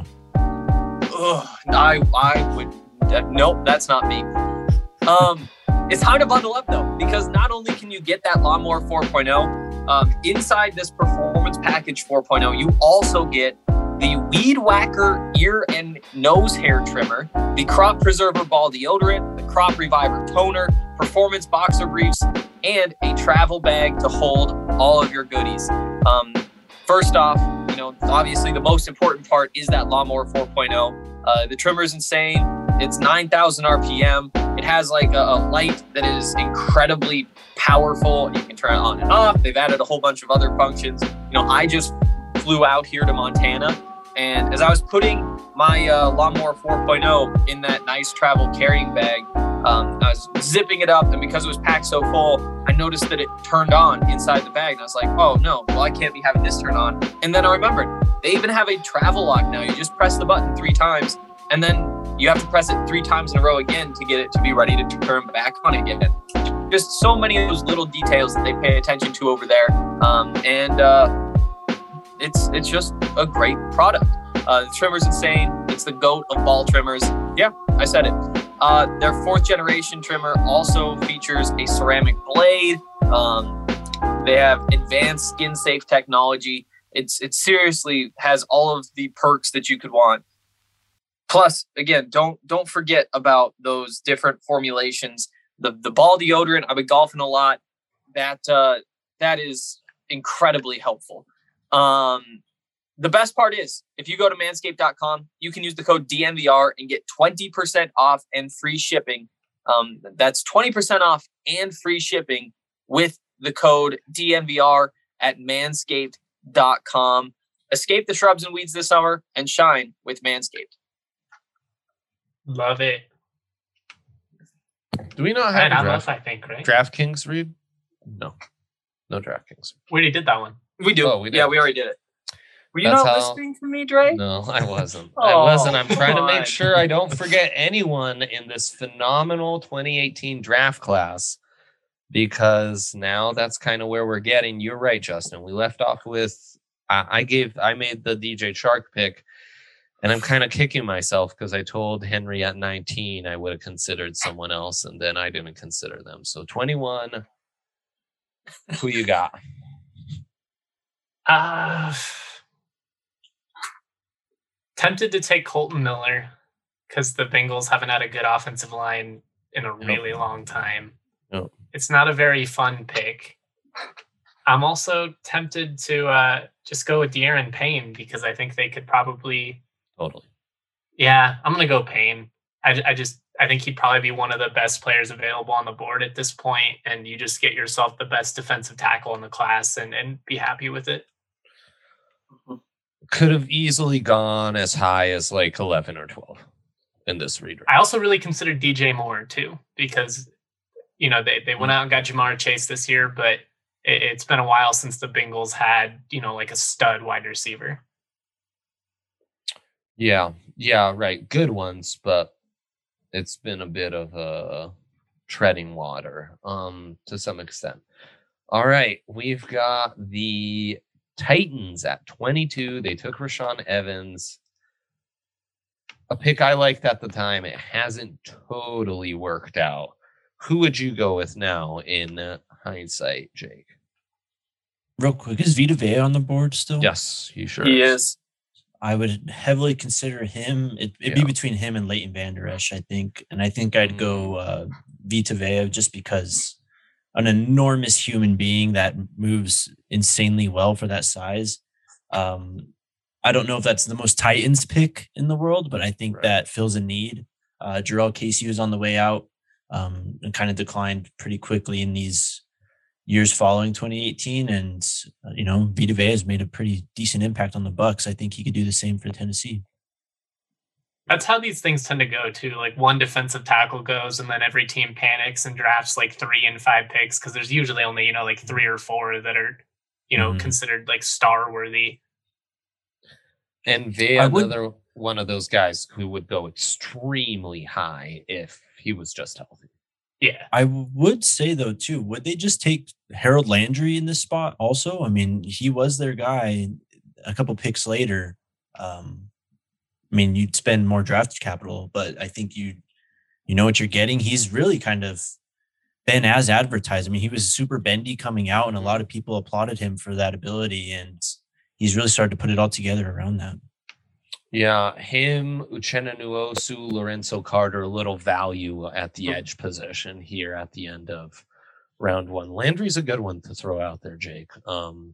Ugh, I I would uh, nope, that's not me. Um, it's time to bundle up though, because not only can you get that Lawnmower four point oh, um, inside this Performance Package four point oh, you also get the Weed Whacker ear and nose hair trimmer, the Crop Preserver ball deodorant, the Crop Reviver toner, Performance boxer briefs, and a travel bag to hold all of your goodies. Um, first off, you know, obviously the most important part is that Lawnmower four point oh. Uh, the trimmer is insane. It's nine thousand R P M. It has like a, a light that is incredibly powerful. You can turn it on and off. They've added a whole bunch of other functions. You know, I just flew out here to Montana, and as I was putting my uh, Lawnmower four point oh in that nice travel carrying bag, Um, I was zipping it up, and because it was packed so full, I noticed that it turned on inside the bag, and I was like, oh no, well, I can't be having this turn on. And then I remembered, they even have a travel lock now. You just press the button three times, and then you have to press it three times in a row again to get it to be ready to turn back on again. Just so many of those little details that they pay attention to over there. Um, and uh, it's it's just a great product. Uh, the trimmer's insane. It's the GOAT of ball trimmers. Yeah, I said it. Uh, their fourth generation trimmer also features a ceramic blade. Um, they have advanced skin safe technology. It's it seriously has all of the perks that you could want. Plus, again, don't don't forget about those different formulations. The the ball deodorant, I've been golfing a lot. That uh, that is incredibly helpful. Um, the best part is, if you go to manscaped dot com, you can use the code D N V R and get twenty percent off and free shipping. Um, that's twenty percent off and free shipping with the code D N V R at manscaped dot com. Escape the shrubs and weeds this summer and shine with Manscaped. Love it. Do we not have And a I draft, love, I think, right? DraftKings read? No. No DraftKings. We already did that one. We do. Oh, we did. Yeah, we already did it. Were you That's not how- listening to me, Dre? No, I wasn't. I Oh, wasn't. I'm trying to come make on. sure I don't forget anyone in this phenomenal twenty eighteen draft class, because now that's kind of where we're getting. You're right, Justin. We left off with I, I gave I made the D J Shark pick, and I'm kind of kicking myself because I told Henry at nineteen I would have considered someone else, and then I didn't consider them. So twenty-one, who you got? Uh, tempted to take Colton Miller because the Bengals haven't had a good offensive line in a really long time. Nope. It's not a very fun pick. I'm also tempted to uh, just go with De'Aaron Payne because I think they could probably. Totally. Yeah, I'm gonna go Payne. I, I just I think he'd probably be one of the best players available on the board at this point, and you just get yourself the best defensive tackle in the class and and be happy with it. Could have easily gone as high as like eleven or twelve in this redraft. I also really considered D J Moore too because you know they they went out and got Jamar Chase this year, but it, it's been a while since the Bengals had you know like a stud wide receiver. Yeah, yeah, right. Good ones, but it's been a bit of a treading water um, to some extent. All right, we've got the Titans at twenty-two. They took Rashaan Evans. A pick I liked at the time. It hasn't totally worked out. Who would you go with now in hindsight, Jake? Real quick, is Vita Vea on the board still? Yes, he sure He is. is. I would heavily consider him. It, it'd Yeah. be between him and Leighton Vander Esch, I think. And I think I'd go uh, Vita Vea just because an enormous human being that moves insanely well for that size. Um, I don't know if that's the most Titans pick in the world, but I think Right. that fills a need. Uh, Jarrell Casey was on the way out um, and kind of declined pretty quickly in these years following twenty eighteen, and uh, you know, Vita Vea has made a pretty decent impact on the Bucks. I think he could do the same for Tennessee. That's how these things tend to go too. Like one defensive tackle goes, and then every team panics and drafts like three and five picks because there's usually only you know like three or four that are you know Mhm. considered like star worthy. And Vea, I would- another one of those guys who would go extremely high if he was just healthy. Yeah, I would say though too, would they just take Harold Landry in this spot also? I mean, he was their guy a couple picks later. Um, I mean, you'd spend more draft capital, but I think you you know what you're getting. He's really kind of been as advertised. I mean, he was super bendy coming out, and a lot of people applauded him for that ability, and he's really started to put it all together around that. Yeah, him, Uchenna Nwosu, Lorenzo Carter, a little value at the edge position here at the end of round one. Landry's a good one to throw out there, Jake. Um,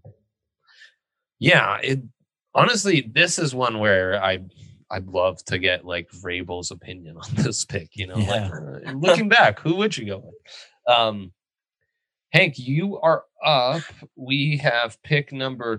yeah, it honestly, this is one where I I'd love to get like Vrabel's opinion on this pick. You know, Yeah. like, uh, looking back, who would you go with? Um, Hank, you are up. We have pick number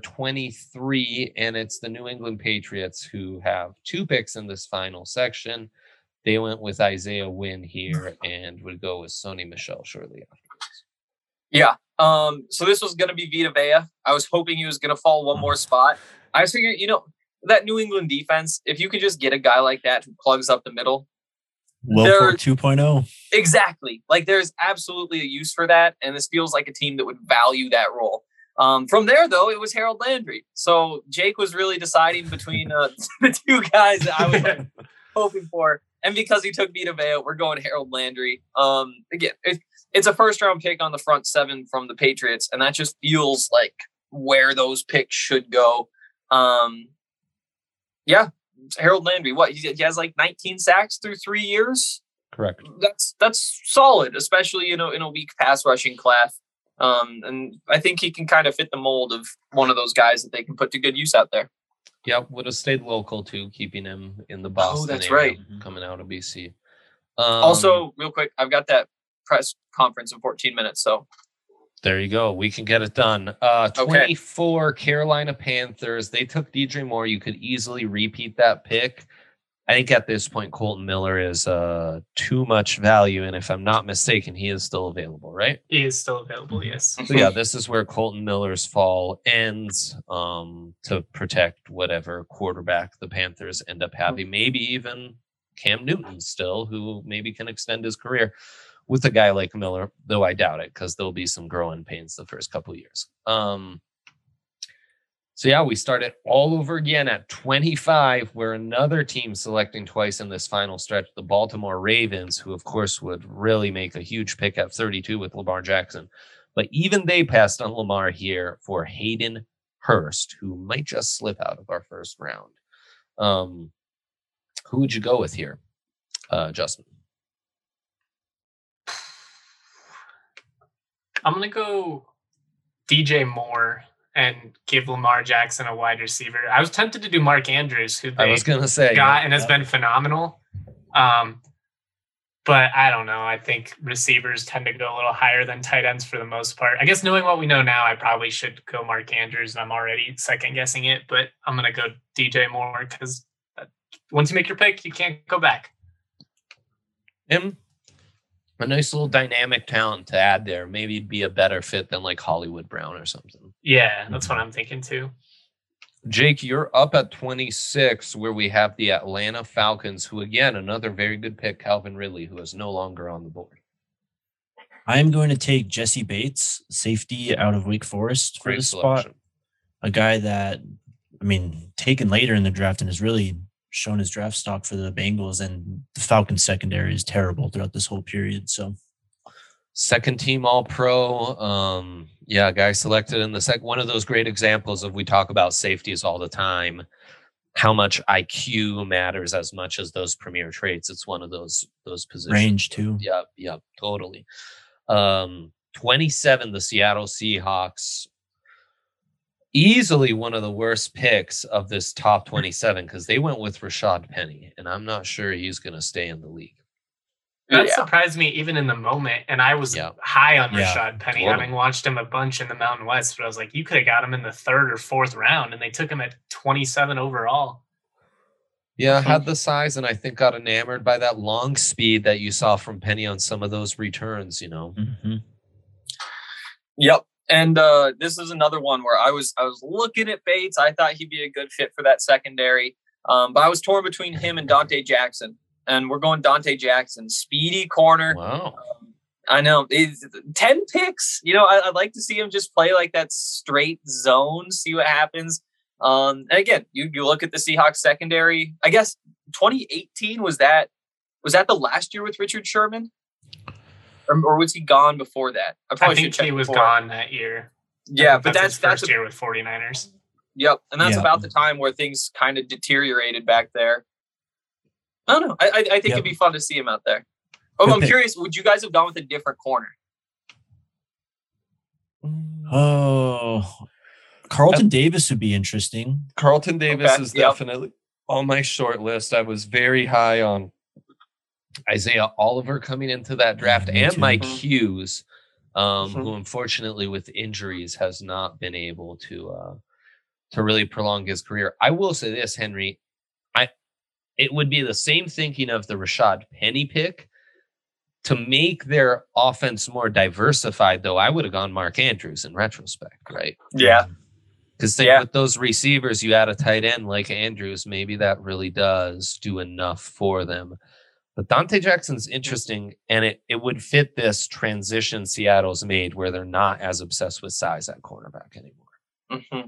twenty-three, and it's the New England Patriots who have two picks in this final section. They went with Isaiah Wynn here and would go with Sony Michel shortly afterwards. Yeah. Um, so this was going to be Vita Vea. I was hoping he was going to fall one more spot. I was figuring, you know, that New England defense, if you could just get a guy like that who plugs up the middle. Wilfork two point oh. Exactly. Like there's absolutely a use for that. And this feels like a team that would value that role. Um, from there, though, it was Harold Landry. So Jake was really deciding between uh, the two guys that I was like, hoping for. And because he took Vita Vea, we're going Harold Landry. Um, again, it, it's a first round pick on the front seven from the Patriots. And that just feels like where those picks should go. Um, yeah, Harold Landry. What he, he has like nineteen sacks through three years. Correct. That's that's solid, especially you know in a weak pass rushing class. Um, and I think he can kind of fit the mold of one of those guys that they can put to good use out there. Yep, would have stayed local too, keeping him in the Boston Oh, that's area, right. coming out of B C. Um, Also, real quick, I've got that press conference in fourteen minutes. So there you go. We can get it done. Uh, Okay. twenty-four Carolina Panthers. They took D J Moore. You could easily repeat that pick. I think at this point, Colton Miller is uh, too much value. And if I'm not mistaken, he is still available, right? He is still available, yes. So yeah, this is where Colton Miller's fall ends um, to protect whatever quarterback the Panthers end up having. Maybe even Cam Newton still, who maybe can extend his career with a guy like Miller, though I doubt it because there'll be some growing pains the first couple of years. Um, so yeah, we started all over again at twenty-five, where another team selecting twice in this final stretch, the Baltimore Ravens, who of course would really make a huge pick at thirty-two with Lamar Jackson. But even they passed on Lamar here for Hayden Hurst, who might just slip out of our first round. Um, who would you go with here, uh, Justin? I'm going to go D J Moore and give Lamar Jackson a wide receiver. I was tempted to do Mark Andrews, who I they was going to say got yeah, and has yeah. been phenomenal. Um, but I don't know. I think receivers tend to go a little higher than tight ends for the most part. I guess knowing what we know now, I probably should go Mark Andrews, and I'm already second guessing it. But I'm going to go D J Moore because once you make your pick, you can't go back. Him, a nice little dynamic talent to add there. Maybe it'd be a better fit than like Hollywood Brown or something. Yeah, that's what I'm thinking too. Jake, you're up at twenty-six, where we have the Atlanta Falcons, who, again, another very good pick, Calvin Ridley, who is no longer on the board. I'm going to take Jesse Bates, safety out of Wake Forest, for Great this spot. selection. A guy that, I mean, taken later in the draft and has really shown his draft stock for the Bengals, and the Falcons secondary is terrible throughout this whole period. So Second team all pro. Um, yeah, guy selected in the second. One of those great examples of we talk about safeties all the time, how much I Q matters as much as those premier traits. It's one of those those positions. range too. Yep, yep, totally. Um, twenty-seven, the Seattle Seahawks. Easily one of the worst picks of this top twenty-seven because they went with Rashad Penny, and I'm not sure he's going to stay in the league. That Yeah. surprised me even in the moment. And I was Yeah. high on Yeah, Rashad Penny, totally. having watched him a bunch in the Mountain West. But I was like, you could have got him in the third or fourth round, and they took him at twenty-seven overall. Yeah, had the size, and I think got enamored by that long speed that you saw from Penny on some of those returns, you know. Mm-hmm. Yep. And uh, this is another one where I was I was looking at Bates. I thought he'd be a good fit for that secondary. Um, but I was torn between him and Dante Jackson. And we're going Dante Jackson, speedy corner. Wow. I know. It's ten picks. You know, I, I'd like to see him just play like that straight zone, see what happens. Um, and again, you, you look at the Seahawks secondary. I guess twenty eighteen was that was that the last year with Richard Sherman? Or, or was he gone before that? I I probably think should check he was before. gone that year. Yeah, I think but that's his that's first a, year with 49ers. yep, and that's Yeah. about the time where things kind of deteriorated back there. I don't know. I I, I think Yep. it'd be fun to see him out there. Oh, Good I'm pick. curious. Would you guys have gone with a different corner? Oh, Carlton Davis would be interesting. Carlton Davis Okay, is yep. definitely on my short list. I was very high on Isaiah Oliver coming into that draft, me and too. Mike Hughes, um, Mhm. who unfortunately with injuries has not been able to uh, to really prolong his career. I will say this, Henry. I it would be the same thinking of the Rashad Penny pick. To make their offense more diversified, though, I would have gone Mark Andrews in retrospect, right? Yeah. Because Yeah. with those receivers, you add a tight end like Andrews, maybe that really does do enough for them. But Dante Jackson's interesting, and it, it would fit this transition Seattle's made where they're not as obsessed with size at cornerback anymore. Mm-hmm.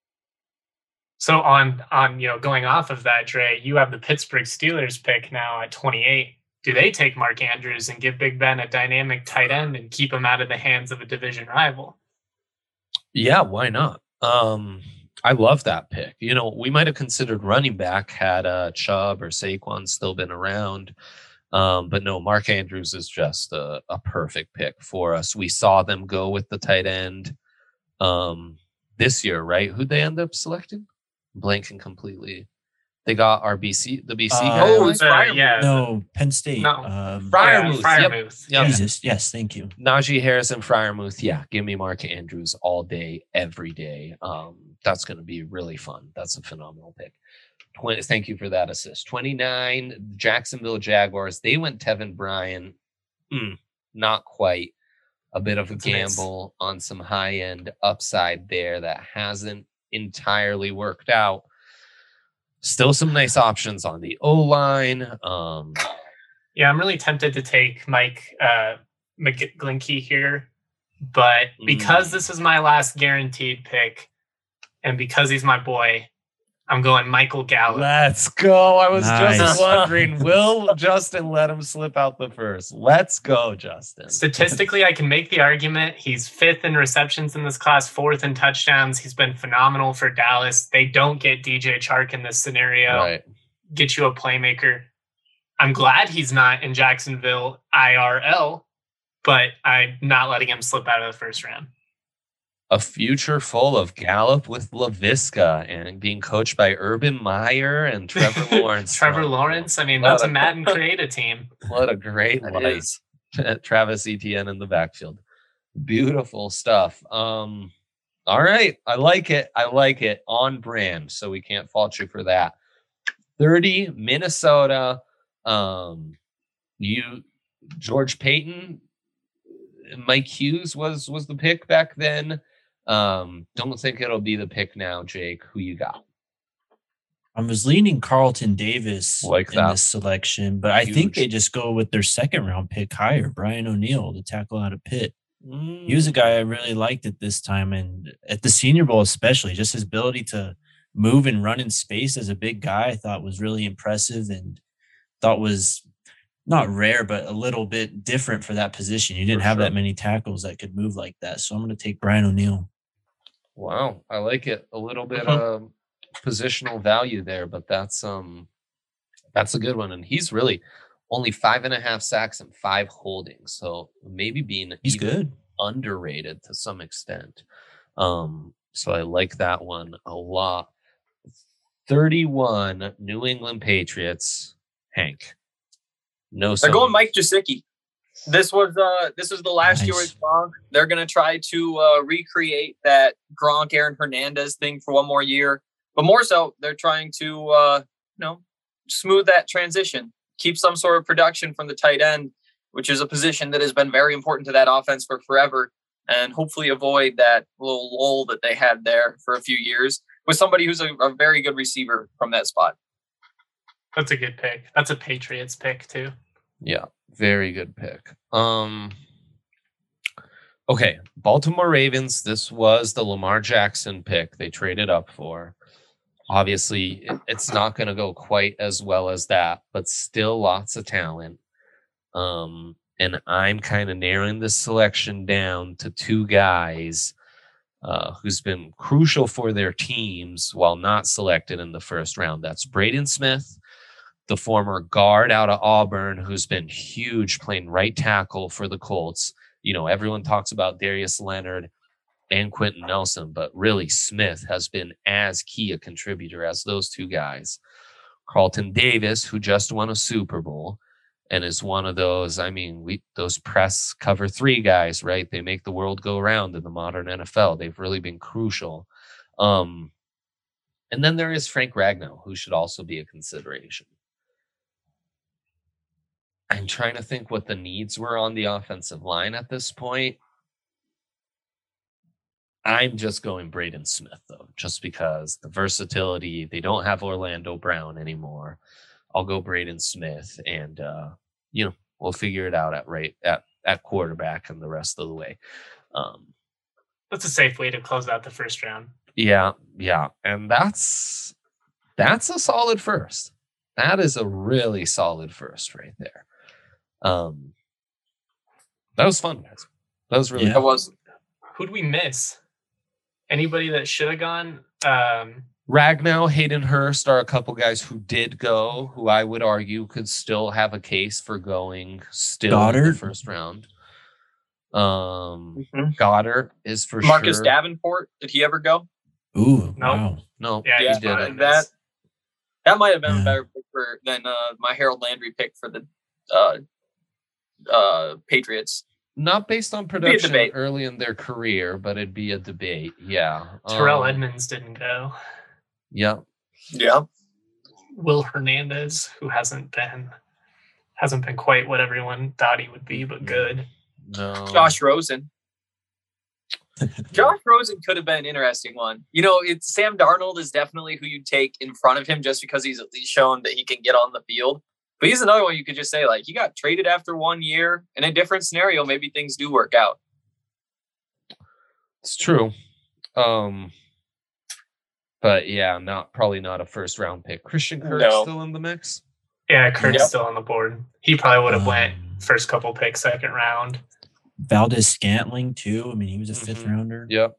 So on on you know going off of that, Dre, you have the Pittsburgh Steelers pick now at twenty-eight. Do they take Mark Andrews and give Big Ben a dynamic tight end and keep him out of the hands of a division rival? Yeah, why not? Um, I love that pick. You know, we might have considered running back had uh, Chubb or Saquon still been around. Um, but no, Mark Andrews is just a, a perfect pick for us. We saw them go with the tight end um, this year, right? Who'd they end up selecting? Blanking completely. They got our B C, the B C Uh, guy. Oh, right? it's Fryer. yeah. No, Penn State. No. Um, Freiermuth, Yeah, yep. Freiermuth. Yep. Jesus. Yes, thank you. Najee Harris and Fryermuth. Yeah, give me Mark Andrews all day, every day. Um, that's going to be really fun. That's a phenomenal pick. twenty, thank you for that assist. twenty-nine, Jacksonville Jaguars. They went Tevin Bryan. Mm, not quite. A bit of a That's a miss. gamble on some high end upside there that hasn't entirely worked out. Still some nice options on the O-line. Um, Yeah, I'm really tempted to take Mike uh, McGlinchey here, but because Mm. this is my last guaranteed pick, and because he's my boy, I'm going Michael Gallup. Let's go. I was Nice. just wondering, will Justin let him slip out the first? Let's go, Justin. Statistically, I can make the argument he's fifth in receptions in this class, fourth in touchdowns. He's been phenomenal for Dallas. They don't get D J Chark in this scenario. Right. Get you a playmaker. I'm glad he's not in Jacksonville I R L, but I'm not letting him slip out of the first round. A future full of Gallup with LaVisca and being coached by Urban Meyer and Trevor Lawrence. Trevor Oh, Lawrence. I mean, What that's a- a Madden creative team. What a great That life. is. Travis Etienne in the backfield. Beautiful stuff. Um, all right. I like it. I like it. On brand. So we can't fault you for that. thirty, Minnesota. Um, you, George Payton, Mike Hughes was was the pick back then. Um, don't think it'll be the pick now, Jake. Who you got? I was leaning Carlton Davis Like in that. this selection, but I Huge. think they just go with their second round pick higher, Brian O'Neill, the tackle out of Pitt. Mm. He was a guy I really liked at this time, and at the Senior Bowl especially, just his ability to move and run in space as a big guy, I thought was really impressive and thought was not rare, but a little bit different for that position. You didn't For have sure. that many tackles that could move like that. So I'm going to take Brian O'Neill. Wow, I like it. A little bit Mhm. of positional value there, but that's um that's a good one. And he's really only five and a half sacks and five holdings. So maybe being He's even good. underrated to some extent. Um, so I like that one a lot. thirty-one New England Patriots. Hank. No, They're so going Mike Gesicki. This was uh this is the last year Nice. with Gronk. They're gonna try to uh, recreate that Gronk Aaron Hernandez thing for one more year, but more so they're trying to uh, you know smooth that transition, keep some sort of production from the tight end, which is a position that has been very important to that offense for forever, and hopefully avoid that little lull that they had there for a few years with somebody who's a, a very good receiver from that spot. That's a good pick. That's a Patriots pick too. Yeah, very good pick. Um Okay, Baltimore Ravens. This was the Lamar Jackson pick they traded up for. Obviously, it- it's not going to go quite as well as that, but still lots of talent. Um and I'm kind of narrowing this selection down to two guys uh, who's been crucial for their teams while not selected in the first round. That's Braden Smith, the former guard out of Auburn, who's been huge playing right tackle for the Colts. You know, everyone talks about Darius Leonard and Quentin Nelson, but really Smith has been as key a contributor as those two guys. Carlton Davis, who just won a Super Bowl and is one of those, I mean, we those press cover three guys, right? They make the world go round in the modern N F L. They've really been crucial. Um, and then there is Frank Ragnow, who should also be a consideration. I'm trying to think what the needs were on the offensive line at this point. I'm just going Braden Smith, though, just because the versatility. They don't have Orlando Brown anymore. I'll go Braden Smith, and uh, you know, we'll figure it out at right at, at quarterback and the rest of the way. Um, That's a safe way to close out the first round. Yeah, yeah, and that's that's a solid first. That is a really solid first right there. Um, that was fun, guys. That was really Yeah. That was Who'd we miss? Anybody that should have gone? Um, Ragnow, Hayden Hurst are a couple guys who did go, who I would argue could still have a case for going still in Goddard? the first round. Um, Mhm. Goddard is for Marcus sure. Davenport. Did he ever go? Ooh, Nope. wow. No, yeah, he he's Yeah, didn't. fine. that that might have been Yeah. a better pick for than uh, my Harold Landry pick for the uh, uh, Patriots. Not based on a production debate. early in their career, but it'd be a debate. Yeah. Terrell Um, Edmonds didn't go. Yeah. Yeah, Will Hernandez, who hasn't been hasn't been quite what everyone thought he would be, but good. No. Josh Rosen. Josh Rosen could have been an interesting one. You know, it's Sam Darnold is definitely who you take in front of him just because he's at least shown that he can get on the field. But he's another one you could just say, like, he got traded after one year. In a different scenario, maybe things do work out. It's true. Um, but yeah, not probably not a first round pick. Christian Kirk No. still in the mix. Yeah, Kurt's Yep. still on the board. He probably would have Um, went first couple picks, second round. Valdez Scantling too. I mean, he was a fifth Mhm. rounder. Yep.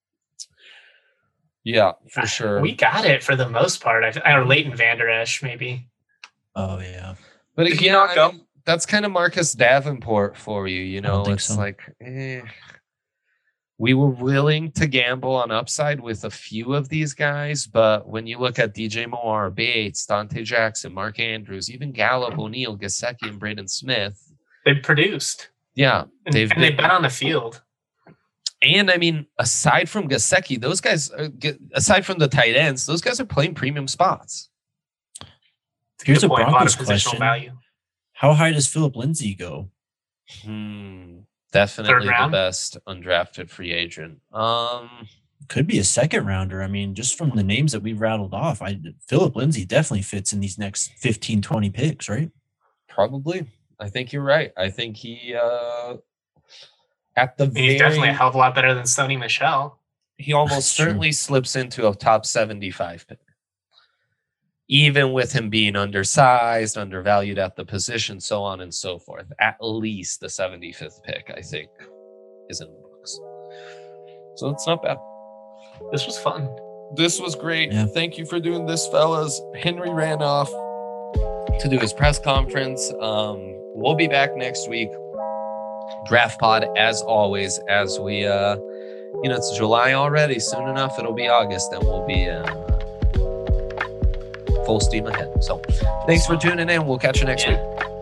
Yeah, for sure. We got it for the most part. I, or Leighton Vander Esch, maybe. Oh yeah. But Did he again, not I go? mean, that's kind of Marcus Davenport for you. You I don't know, think it's so. like eh. We were willing to gamble on upside with a few of these guys, but when you look at D J Moore, Bates, Dante Jackson, Mark Andrews, even Gallup, O'Neal, Gesicki, and Braden Smith, They produced. yeah, And, they've and they've been. been on the field. And I mean, aside from Gesicki, those guys, are, get- aside from the tight ends, those guys are playing premium spots. It's Here's good a point, lot Broncos of positional question. value. How high does Philip Lindsay go? Hmm, definitely the round? best undrafted free agent. Um, Could be a second rounder. I mean, just from the names that we've rattled off, I Philip Lindsay definitely fits in these next fifteen, twenty picks, right? probably. I think you're right. I think he, uh, at the I mean, he's very, definitely a hell of a lot better than Sony Michel. he almost That's true. certainly slips into a top seventy-five pick. Even with him being undersized, undervalued at the position, so on and so forth. At least the seventy-fifth pick, I think, is in the books. So it's not bad. This was fun. This was great. Yeah. Thank you for doing this, fellas. Henry ran off to do his press conference. Um, we'll be back next week. Draft pod, as always, as we, uh, you know, it's July already. Soon enough, it'll be August, and we'll be uh, full steam ahead. So thanks for tuning in. We'll catch you next Yeah. week.